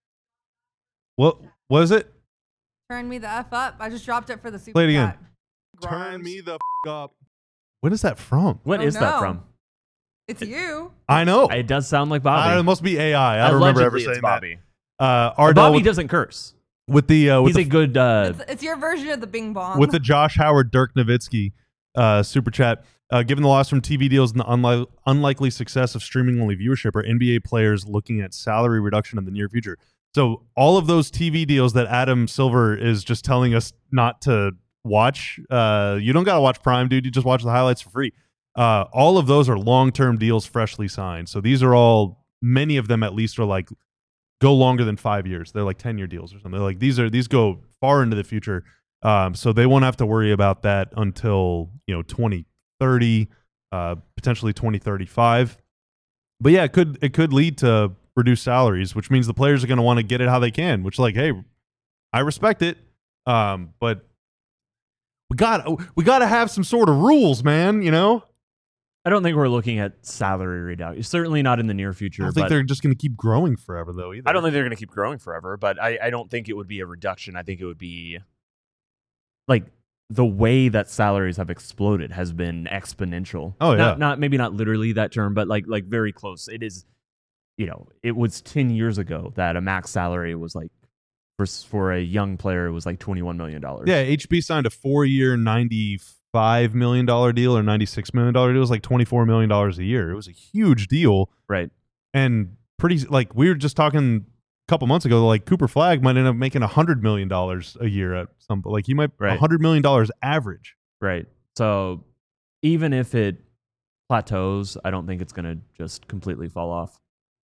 What was it? Turn me the F up. I just dropped it for the Super Play it again. Chat. Turn me the f- up. What is that from? What Oh, is no. that from? It's you. I know. It does sound like Bobby. Uh, it must be A I. I don't remember ever Allegedly, saying it's Bobby. that. Uh, Ardell Bobby with, doesn't curse. with the uh, with He's the a good. Uh, It's, it's your version of the Bing Bong. with the Josh Howard Dirk Nowitzki uh, super chat. Uh, given the loss from T V deals and the unli- unlikely success of streaming only viewership, are N B A players looking at salary reduction in the near future? So all of those T V deals that Adam Silver is just telling us not to watch, uh, you don't got to watch Prime, dude. You just watch the highlights for free. Uh, all of those are long-term deals freshly signed. So these are all, many of them at least are like, go longer than five years. They're like ten-year deals or something. Like these are these go far into the future. Um, so they won't have to worry about that until, you know, twenty thirty, uh, potentially twenty thirty-five. But yeah, it could it could lead to reduced salaries, which means the players are going to want to get it how they can, which like, hey, I respect it. Um, but we got we got to have some sort of rules, man, you know? I don't think we're looking at salary reduction. Certainly not in the near future. I don't think but they're just going to keep growing forever, though, either. I don't think they're going to keep growing forever, but I, I don't think it would be a reduction. I think it would be like the way that salaries have exploded has been exponential. Oh, yeah. Not, not maybe not literally that term, but like like very close. It is, you know, it was ten years ago that a max salary was like, for, for a young player, it was like twenty-one million dollars. Yeah, H B signed a four-year, ninety-five million dollars deal or ninety-six million dollars deal. It was like twenty-four million dollars a year. It was a huge deal. Right. And pretty, like, we were just talking a couple months ago, like, Cooper Flagg might end up making one hundred million dollars a year at some, like, he might, Right. one hundred million dollars average. Right. So even if it plateaus, I don't think it's going to just completely fall off.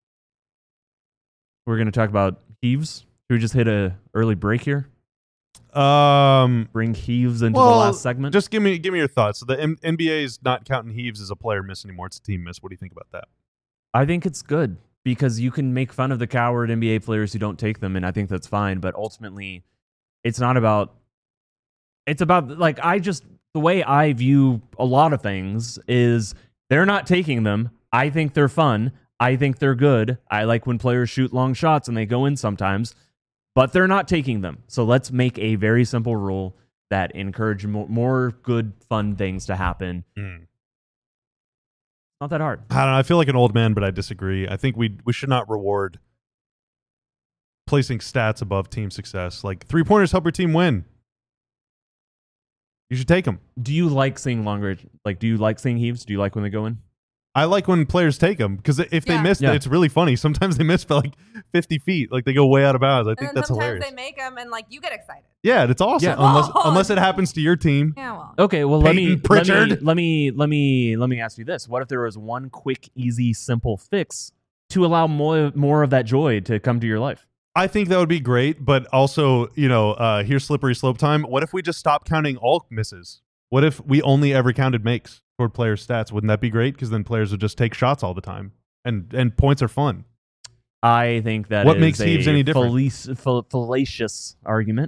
We're going to talk about heaves. Should we just hit a early break here? Um, Bring heaves into well, the last segment? Just give me give me your thoughts. So the M- N B A is not counting heaves as a player miss anymore. It's a team miss. What do you think about that? I think it's good because you can make fun of the coward N B A players who don't take them, and I think that's fine. But ultimately, it's not about. It's about, like, I just, the way I view a lot of things is they're not taking them. I think they're fun. I think they're good. I like when players shoot long shots and they go in sometimes, but they're not taking them. So let's make a very simple rule that encourage more, more good, fun things to happen. Mm. Not that hard. I don't know. I feel like an old man, but I disagree. I think we we should not reward placing stats above team success. Like, three-pointers help your team win. You should take them. Do you like seeing longer, like, do you like seeing heaves? Do you like when they go in? I like when players take them because if they Yeah. miss, Yeah. it's really funny. Sometimes they miss by like fifty feet. Like, they go way out of bounds. I and think then that's sometimes hilarious. they make them, and like you get excited. Yeah, it's awesome. Yeah. Unless Oh. unless it happens to your team. Yeah, well. Okay, well let me, Peyton let me Pritchard? let me let me let me ask you this: what if there was one quick, easy, simple fix to allow more more of that joy to come to your life? I think that would be great, but also, you know, uh, here's slippery slope time. What if we just stop counting all misses? What if we only ever counted makes toward players' stats? Wouldn't that be great? Because then players would just take shots all the time, and and points are fun. I think that What is makes a heaves any different? fallac- fall- fallacious argument.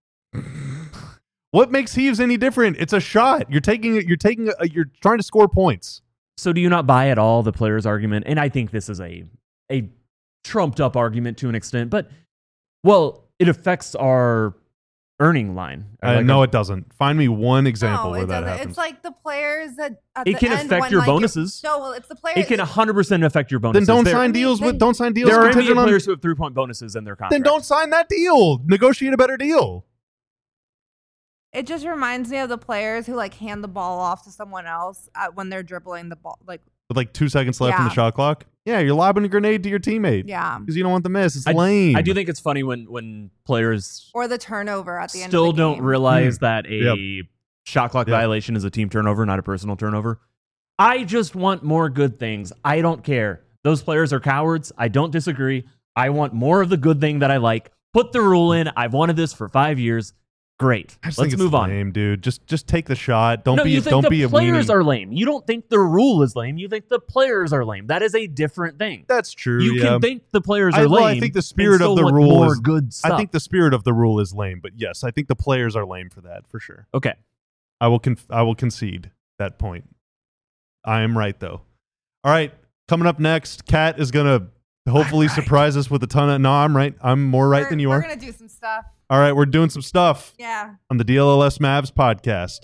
What makes heaves any different? It's a shot. You're taking it. You're taking. A, you're trying to score points. So do you not buy at all the player's argument? And I think this is a a trumped up argument to an extent, but well, it affects our earning line. Uh, Like no, our- it doesn't. Find me one example no, where it that doesn't. happens. It's like the players that at It the can end affect when, your like, if- bonuses. No, well, it's the players. it can one hundred percent affect your then bonuses. don't There- sign I mean, deals with. then- Don't sign deals There are N B A contingent on. players who have three point bonuses in their contract. Then don't sign that deal. Negotiate a better deal. It just reminds me of the players who like hand the ball off to someone else at, when they're dribbling the ball. Like with like two seconds left in the Yeah. shot clock. Yeah, you're lobbing a grenade to your teammate. Yeah. Because you don't want the miss. It's I- lame. I do think it's funny when when players Or the turnover at the end still of the don't game. realize that a Yep. shot clock Yep. violation is a team turnover, not a personal turnover. I just want more good things. I don't care. Those players are cowards. I don't disagree. I want more of the good thing that I like. Put the rule in. I've wanted this for five years. Great. I just Let's think it's move on. lame, dude. Just just take the shot. Don't no, be you think don't the be a players weenie. are lame. You don't think the rule is lame. You think the players are lame. That is a different thing. That's true. You yeah. can think the players I- are well, I lame. think the and spirit of still the want rule more is- good stuff. I think the spirit of the rule is lame, but yes, I think the players are lame for that for sure. okay. I will conf- I will concede that point. I am right though. All right, coming up next, Kat is gonna hopefully right. surprise us with a ton of. No, I'm right. I'm more right We're- than you we're are. gonna do some stuff. All right, we're doing some stuff Yeah. on the D L L S Mavs podcast.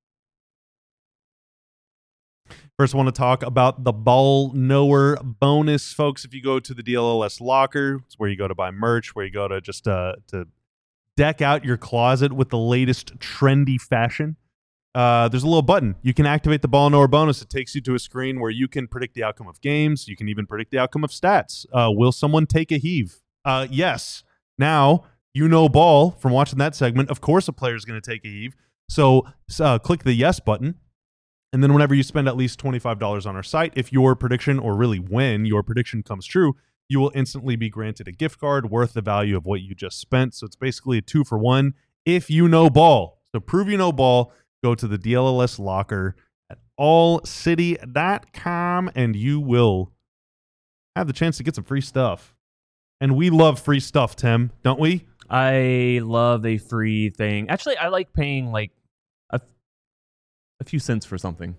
First, I want to talk about the Ball Knower bonus, folks. If you go to the D L L S locker, it's where you go to buy merch, where you go to just uh, to deck out your closet with the latest trendy fashion. Uh, there's a little button. You can activate the Ball Knower bonus. It takes you to a screen where you can predict the outcome of games. You can even predict the outcome of stats. Uh, will someone take a heave? Uh, yes. Now, you know ball from watching that segment. Of course, a player is going to take a heave. So uh, click the yes button. And then whenever you spend at least twenty-five dollars on our site, if your prediction, or really when your prediction comes true, you will instantly be granted a gift card worth the value of what you just spent. So it's basically a two for one if you know ball. So prove you know ball. Go to the D L L S locker at all city dot com and you will have the chance to get some free stuff. And we love free stuff, Tim, don't we? I love a free thing. Actually, I like paying like a, a few cents for something.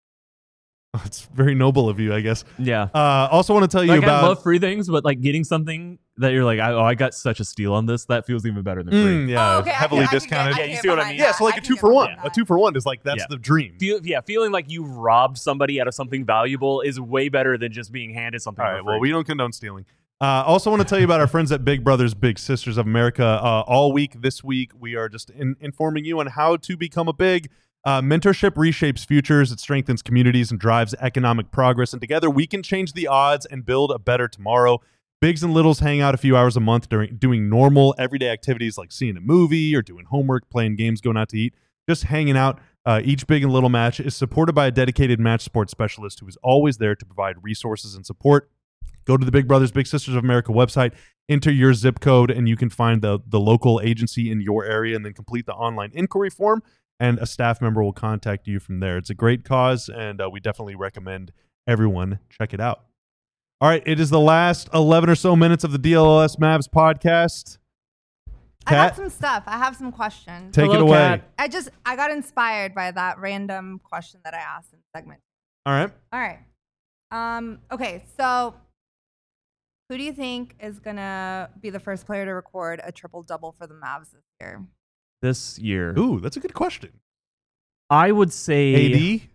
It's very noble of you, I guess. Yeah. Uh, also want to tell you Like, about... I love free things, but like getting something that you're like, oh, I got such a steal on this. That feels even better than free. Mm, yeah, Oh, okay, I heavily can- I can get- discounted. I Yeah, can you get see what I behind mean? Yeah, so that. like I a can two get for one. behind A that. two for one is like, that's Yeah. the dream. Feel, yeah, feeling like you robbed somebody out of something valuable is way better than just being handed something. All for right, well, free. we don't condone stealing. Uh, also want to tell you about our friends at Big Brothers Big Sisters of America. Uh, all week this week, we are just in, informing you on how to become a big. Uh, mentorship reshapes futures, it strengthens communities and drives economic progress. And together we can change the odds and build a better tomorrow. Bigs and littles hang out a few hours a month during doing normal everyday activities like seeing a movie or doing homework, playing games, going out to eat, just hanging out. Uh, each big and little match is supported by a dedicated match support specialist who is always there to provide resources and support. Go to the Big Brothers Big Sisters of America website, enter your zip code, and you can find the, the local agency in your area and then complete the online inquiry form, and a staff member will contact you from there. It's a great cause, and uh, we definitely recommend everyone check it out. All right, it is the last eleven or so minutes of the D L L S Mavs podcast. I got Kat, some stuff. I have some questions. take Hello, it away. Kat. I just I got inspired by that random question that I asked in the segment. All right. All right. Um, okay, so who do you think is gonna be the first player to record a triple double for the Mavs this year? This year, Ooh, that's a good question. I would say A D?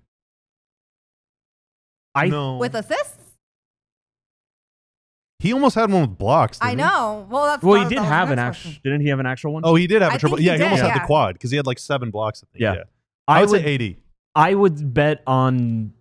I no. With assists? He almost had one with blocks. I didn't he? know. Well, that's Well, that he was- did that was have the an next actual. question. Didn't he have an actual one? Oh, he did have a I triple. think he Yeah, he did, almost had yeah. the quad because he had like seven blocks. I think. Yeah. Yeah. I, I would, would. say eighty. I would bet on.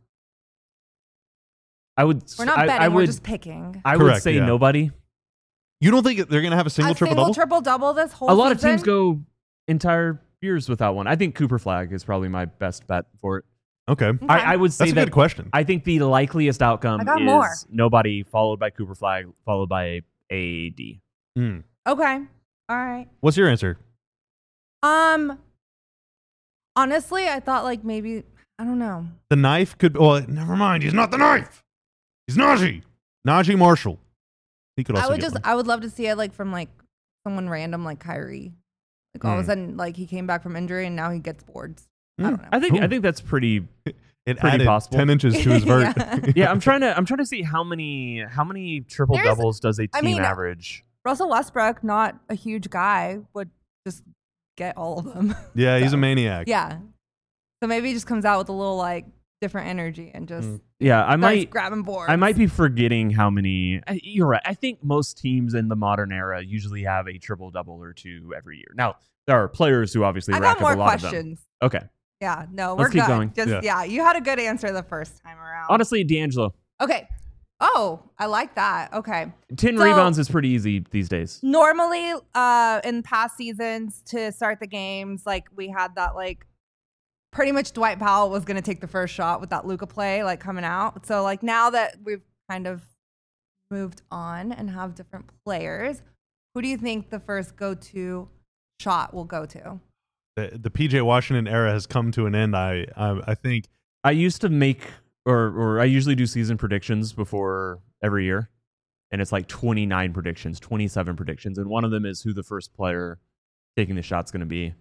I would. We're not I, betting, I we're would. just picking. I would Correct, say yeah. nobody. You don't think they're going to have a single a triple single double? triple double this whole A lot of teams season? go entire years without one. I think Cooper Flag is probably my best bet for it. Okay. Okay. I, I would say That's a that good question. I think the likeliest outcome I got is more. nobody followed by Cooper Flag followed by A D. Mm. Okay. All right. What's your answer? Um honestly, I thought like maybe I don't know. The knife could. Well, never mind. He's not the knife. He's Najee. Najee Marshall. He could also. I would get just one. I would love to see it like from like someone random like Kyrie. Like all of Mm. a sudden like he came back from injury and now he gets boards. I Mm. don't know. I think Ooh. I think that's pretty. It pretty added possible. ten inches to his vert. Yeah. Yeah, I'm trying to I'm trying to see how many how many triple There's- doubles does a team I mean, average. Russell Westbrook, not a huge guy, would just get all of them. Yeah, he's So, a maniac. yeah. So maybe he just comes out with a little like different energy and just Mm. Yeah, I starts might grabbing boards. I might be forgetting how many. I- You're right. I think most teams in the modern era usually have a triple double or two every year. Now there are players who obviously I rack got more up a lot of them. questions. Okay. Yeah, no, we're Let's keep good. going. Just Yeah. yeah. you had a good answer the first time around. Honestly, D'Angelo. Okay. Oh, I like that. Okay. ten So- rebounds is pretty easy these days. Normally, uh, in past seasons to start the games, like we had that like pretty much Dwight Powell was gonna take the first shot with that Luka play like coming out. So like now that we've kind of moved on and have different players, who do you think the first go-to shot will go to? The, the P J Washington era has come to an end. I I, I think I used to make, or or I usually do season predictions before every year, and it's like twenty-nine predictions, twenty-seven predictions, and one of them is who the first player taking the shot's going to be.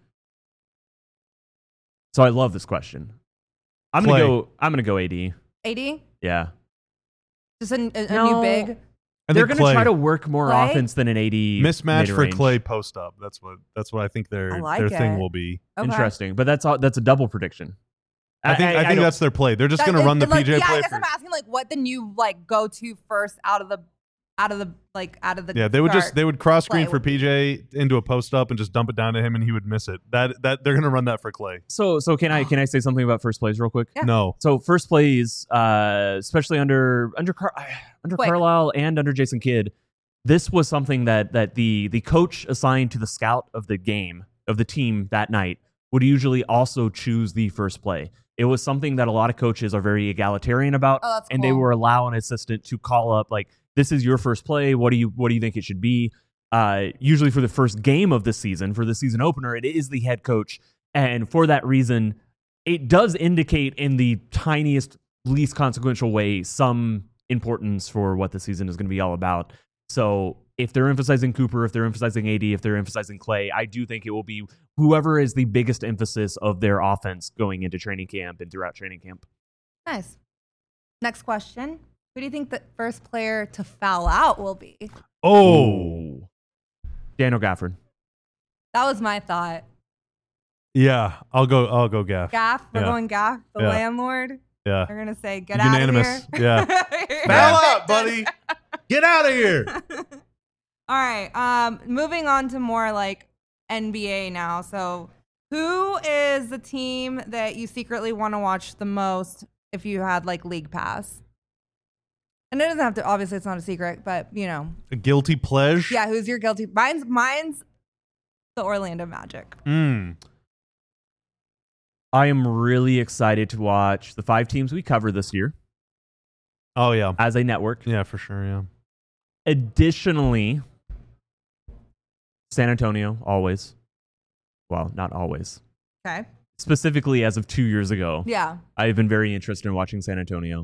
So I love this question. I'm gonna Clay. go. I'm gonna go A D. A D? Yeah, Just a, a, a No. new big? I they're think gonna Clay. try to work more Clay? offense than an A D mismatch for mid-range. Clay post up. That's what that's what I think their I like their thing it. will be. Okay. Interesting, but that's all, that's a double prediction. I think I, think don't- that's their play. They're just That- going to run the it- like, P J yeah, play. I guess For, I'm asking like what the new like go-to first out of the out of the like out of the yeah, they would just start they would cross screen play for would be- P J into a post up and just dump it down to him, and he would miss it. That that they're going to run that for Clay. So so can I can I say something about first plays real quick? Yeah. No, So first plays, uh, especially under under Car- under Quick. Carlisle and under Jason Kidd, this was something that that the the coach assigned to the scout of the game of the team that night would usually also choose the first play. It was something that a lot of coaches are very egalitarian about, Oh, that's and they cool. were allow an assistant to call up like, "This is your first play. What do you what do you think it should be?" Uh, usually for the first game of the season, for the season opener, it is the head coach, and for that reason, it does indicate in the tiniest, least consequential way some importance for what the season is going to be all about. So if they're emphasizing Cooper, if they're emphasizing A D, if they're emphasizing Clay, I do think it will be whoever is the biggest emphasis of their offense going into training camp and throughout training camp. Nice. Next question. Who do you think the first player to foul out will be? oh Daniel Gafford. That was my thought. yeah, I'll go. I'll go Gaff. Gaff, we're Yeah. going Gaff, the Yeah. landlord. Yeah, They're gonna say, "Get Unanimous. out of here." Yeah. foul out, buddy. Get out of here. All right. Um, moving on to more like N B A now. So, who is the team that you secretly want to watch the most if you had like League Pass? And it doesn't have to. Obviously, it's not a secret, but you know, A guilty pleasure. yeah. Who's your guilty? Mine's mine's the Orlando Magic. Mm. I am really excited to watch the five teams we cover this year Oh yeah. as a network. Yeah, for sure. Yeah. Additionally, San Antonio, always. Well, not always. Okay. Specifically, as of two years ago, Yeah. I've been very interested in watching San Antonio.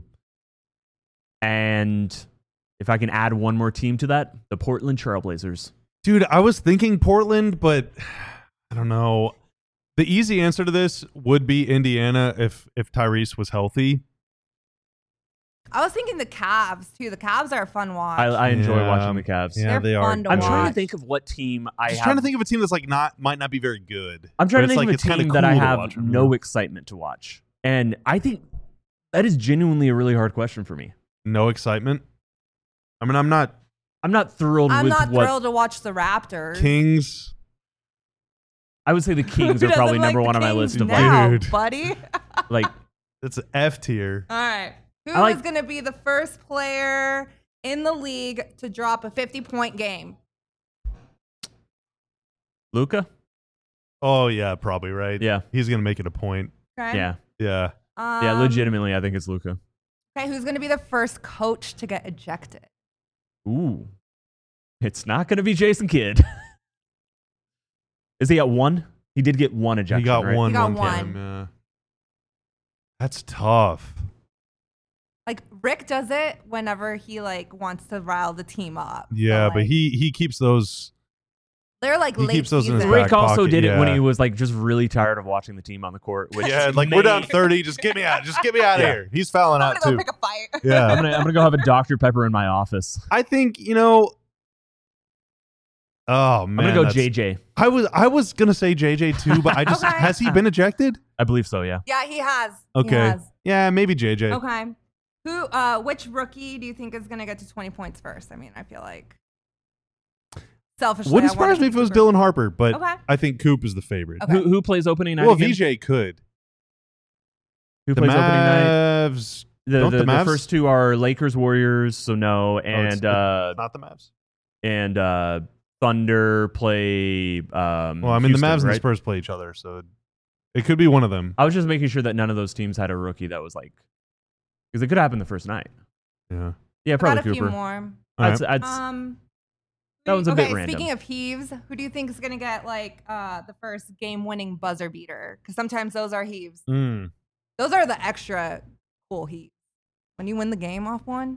And if I can add one more team to that, the Portland Trailblazers. Dude, I was thinking Portland, but I don't know. The easy answer to this would be Indiana if if Tyrese was healthy. I was thinking the Cavs too. The Cavs are a fun watch. I, I enjoy Yeah. watching the Cavs. Yeah, They're they are. fun to I'm watch. trying to think of what team I Just have. trying to think of a team that's like not might not be very good. I'm trying but to it's think like, of it's a kinda team that I cool to have watch 'em, no yeah. excitement to watch. And I think that is genuinely a really hard question for me. No excitement. I mean, I'm not I'm not thrilled I'm with not what thrilled to watch the Raptors. Kings. I would say the Kings Who are probably doesn't like number the one on my Kings list of now, Dude. buddy. like like It's F tier. All right. Who I like- is going to be the first player in the league to drop a fifty-point game? Luka. Oh yeah, probably right. Yeah. He's gonna make it a point. Okay. Yeah. Yeah. Um, Yeah, legitimately I think it's Luka. Okay, who's going to be the first coach to get ejected? Ooh. It's not going to be Jason Kidd. Is he at one? He did get one ejection, he got right? one He got one time. one. Yeah. That's tough. Like Rick does it whenever he like wants to rile the team up. Yeah, but like, he he keeps those. they're like he late keeps those in his season. back Rick also pocket, did it when yeah. he was like just really tired of watching the team on the court. Which Yeah, like may- we're down thirty. Just get me out. Just get me out of Yeah. here. He's fouling I'm out gonna too. go pick a fight. I'm Yeah. gonna I'm gonna go have a Doctor Pepper in my office. I think you know. Oh man, I'm gonna go that's- J J. I was I was gonna say J J too, but I just Okay. has he been ejected? I believe so. Yeah. Yeah, he has. He Okay, has. yeah, maybe J J. Okay. Who? Uh, which rookie do you think is gonna get to twenty points first? I mean, I feel like selfishly, Wouldn't I wanna surprise me see if it was Cooper. Dylan Harper, but Okay. I think Coop is the favorite. Okay. Who who plays opening night Well, again? V J could. Who The plays opening night? Mavs. The, Don't the, the the Mavs? first two are Lakers Warriors, so no, it's- and uh, Not the Mavs. and uh, Thunder play. Um, Well, I mean, Houston, the Mavs and right? the Spurs play each other, so it could be one of them. I was just making sure that none of those teams had a rookie that was like, because it could happen the first night. Yeah. Yeah, I probably got a Cooper. few more. All I'd, right. I'd, Um, that one's a okay, bit random. Speaking of heaves, who do you think is going to get like uh, the first game-winning buzzer beater? Because sometimes those are heaves. Mm. Those are the extra cool heaves. When you win the game off one.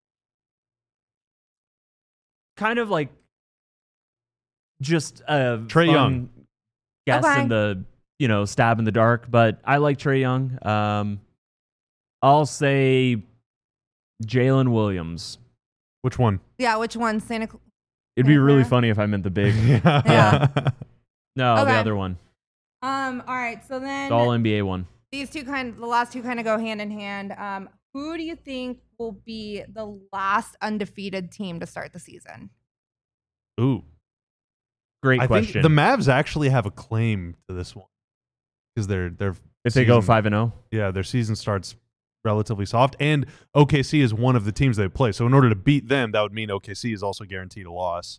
kind of like just a Trae fun Young. guess Okay. in the you know stab in the dark, but I like Trae Young. Um, I'll say Jalen Williams. Which one? Yeah, which one? Santa Cl- It'd be really Yeah. funny if I meant the big. yeah. Yeah. No, the Okay. other one, Um. All right. So then the All N B A one. these two kind, the last two kind of go hand in hand. Um. Who do you think will be the last undefeated team to start the season? Ooh. Great I question. think the Mavs actually have a claim to this one because they're they're if they go season- five and zero, yeah, their season starts relatively soft, and O K C is one of the teams they play. So in order to beat them, that would mean O K C is also guaranteed a loss.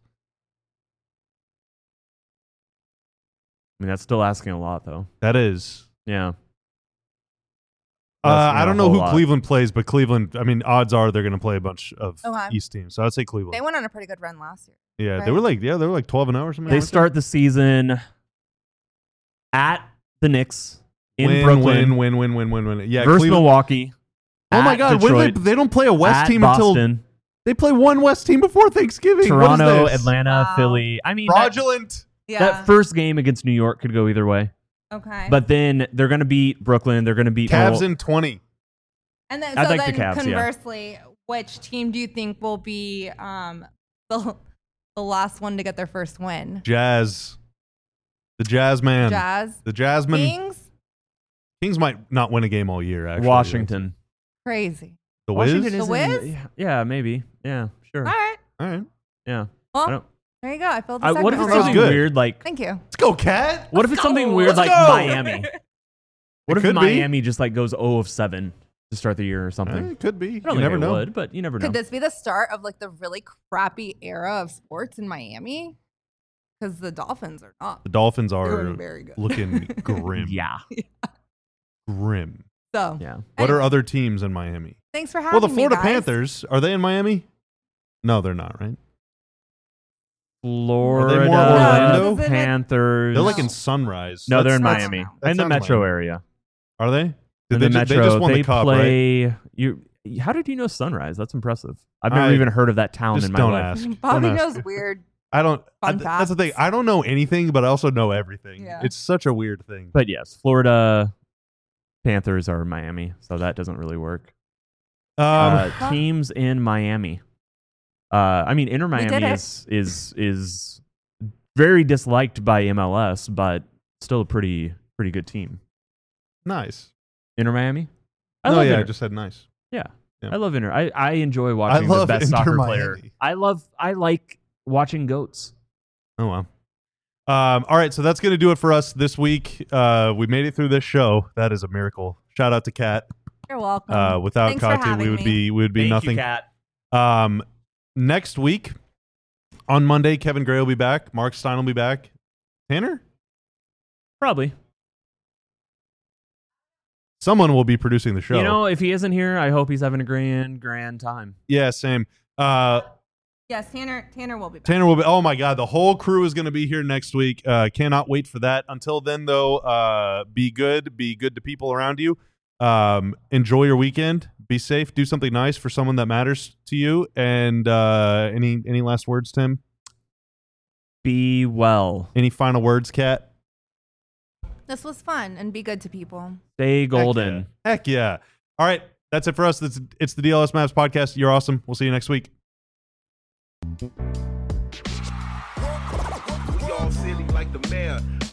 I mean that's still asking a lot, though. That is. Yeah. Uh, That's not I a don't know whole who lot. Cleveland plays, but Cleveland. I mean, odds are they're going to play a bunch of Okay. East teams. So I'd say Cleveland. They went on a pretty good run last year. yeah, they right? were like yeah, they were like twelve and zero or something. They like that. start the season at the Knicks in win, Brooklyn Win, win, win, win, win, win. Yeah, versus Cleveland. Milwaukee. Oh my at God! When they, Detroit, they don't play a West at team until Boston, they play one West team before Thanksgiving. Toronto, what is this? Atlanta, Wow. Philly. I mean, that, Fraudulent. Yeah. that first game against New York could go either way. okay. But then they're going to beat Brooklyn. They're going to beat Cavs Mil- in twenty. And then, I so think then the Cavs, yeah. conversely, which team do you think will be um, the, the last one to get their first win? Jazz. The Jazz man. Jazz? The Jasmine. Kings? Kings might not win a game all year. Actually, Washington. Crazy. The Wiz. Washington The is in- Wiz? yeah, yeah, maybe. Yeah, sure. All right. All right. Yeah. I Well, don't, there you go. I filled the I, what if segment it's That was wrong. something good. weird like? Thank you. Let's go, Cat. What if it's something go. weird Let's like go. Miami? What It if could be. Miami just like goes zero of seven to start the year or something? Eh, it could be. I You don't think never it know. would, but you never know. Could this be the start of like the really crappy era of sports in Miami? Because the Dolphins are not The Dolphins are doing very good. looking grim. Yeah. Grim. So, Yeah. What are Anyway. other teams in Miami? thanks for having Well, the me, Florida guys. Panthers, are they in Miami? No, they're not, right? Florida more Orlando? No, Panthers. They're like in No. Sunrise. No, they're That's- in that's- Miami. that In the sounds metro Miami. area. Are they? Did In they, the ju- metro. they just won they the cup, right? play you how did you know Sunrise? That's impressive. I've never I even heard of that town Just in my don't life. ask. Bobby Don't ask. knows weird. I don't. I, Fun that's the thing. facts. I don't know anything, but I also know everything. Yeah. It's such a weird thing. But yes, Florida Panthers are Miami, so that doesn't really work. Um, uh, teams in Miami. Uh, I mean, Inter did Miami it. is is is very disliked by M L S, but still a pretty pretty good team. nice. Inter Miami. I no, love yeah, I Inter. just said nice. Yeah. Yeah. I love Inter. I, I enjoy watching love the best Inter soccer Miami. player. I love I like watching goats. Oh well. Um, all right, so that's gonna do it for us this week. Uh, we made it through this show. That is a miracle. Shout out to Kat. You're welcome. Uh, without Thanks for Kati, we having would me. be we would be Thank nothing. you, Kat. Um, next week on Monday, Kevin Gray will be back. Mark Stein will be back. Tanner, Probably. someone will be producing the show. You know, if he isn't here, I hope he's having a grand grand time. yeah, same. Uh, yes, Tanner. Tanner will be back. Tanner will be. Oh my God, the whole crew is going to be here next week. Uh, cannot wait for that. Until then, though, uh, be good. Be good to people around you. Um, enjoy your weekend. Be safe. Do something nice for someone that matters to you. And uh, any any last words, Tim? Be well. Any final words, Kat? This was fun, and be good to people. Stay golden. Heck yeah. All right, that's it for us. It's, it's the D L S Maps podcast. You're awesome. We'll see you next week. We all silly like the mayor.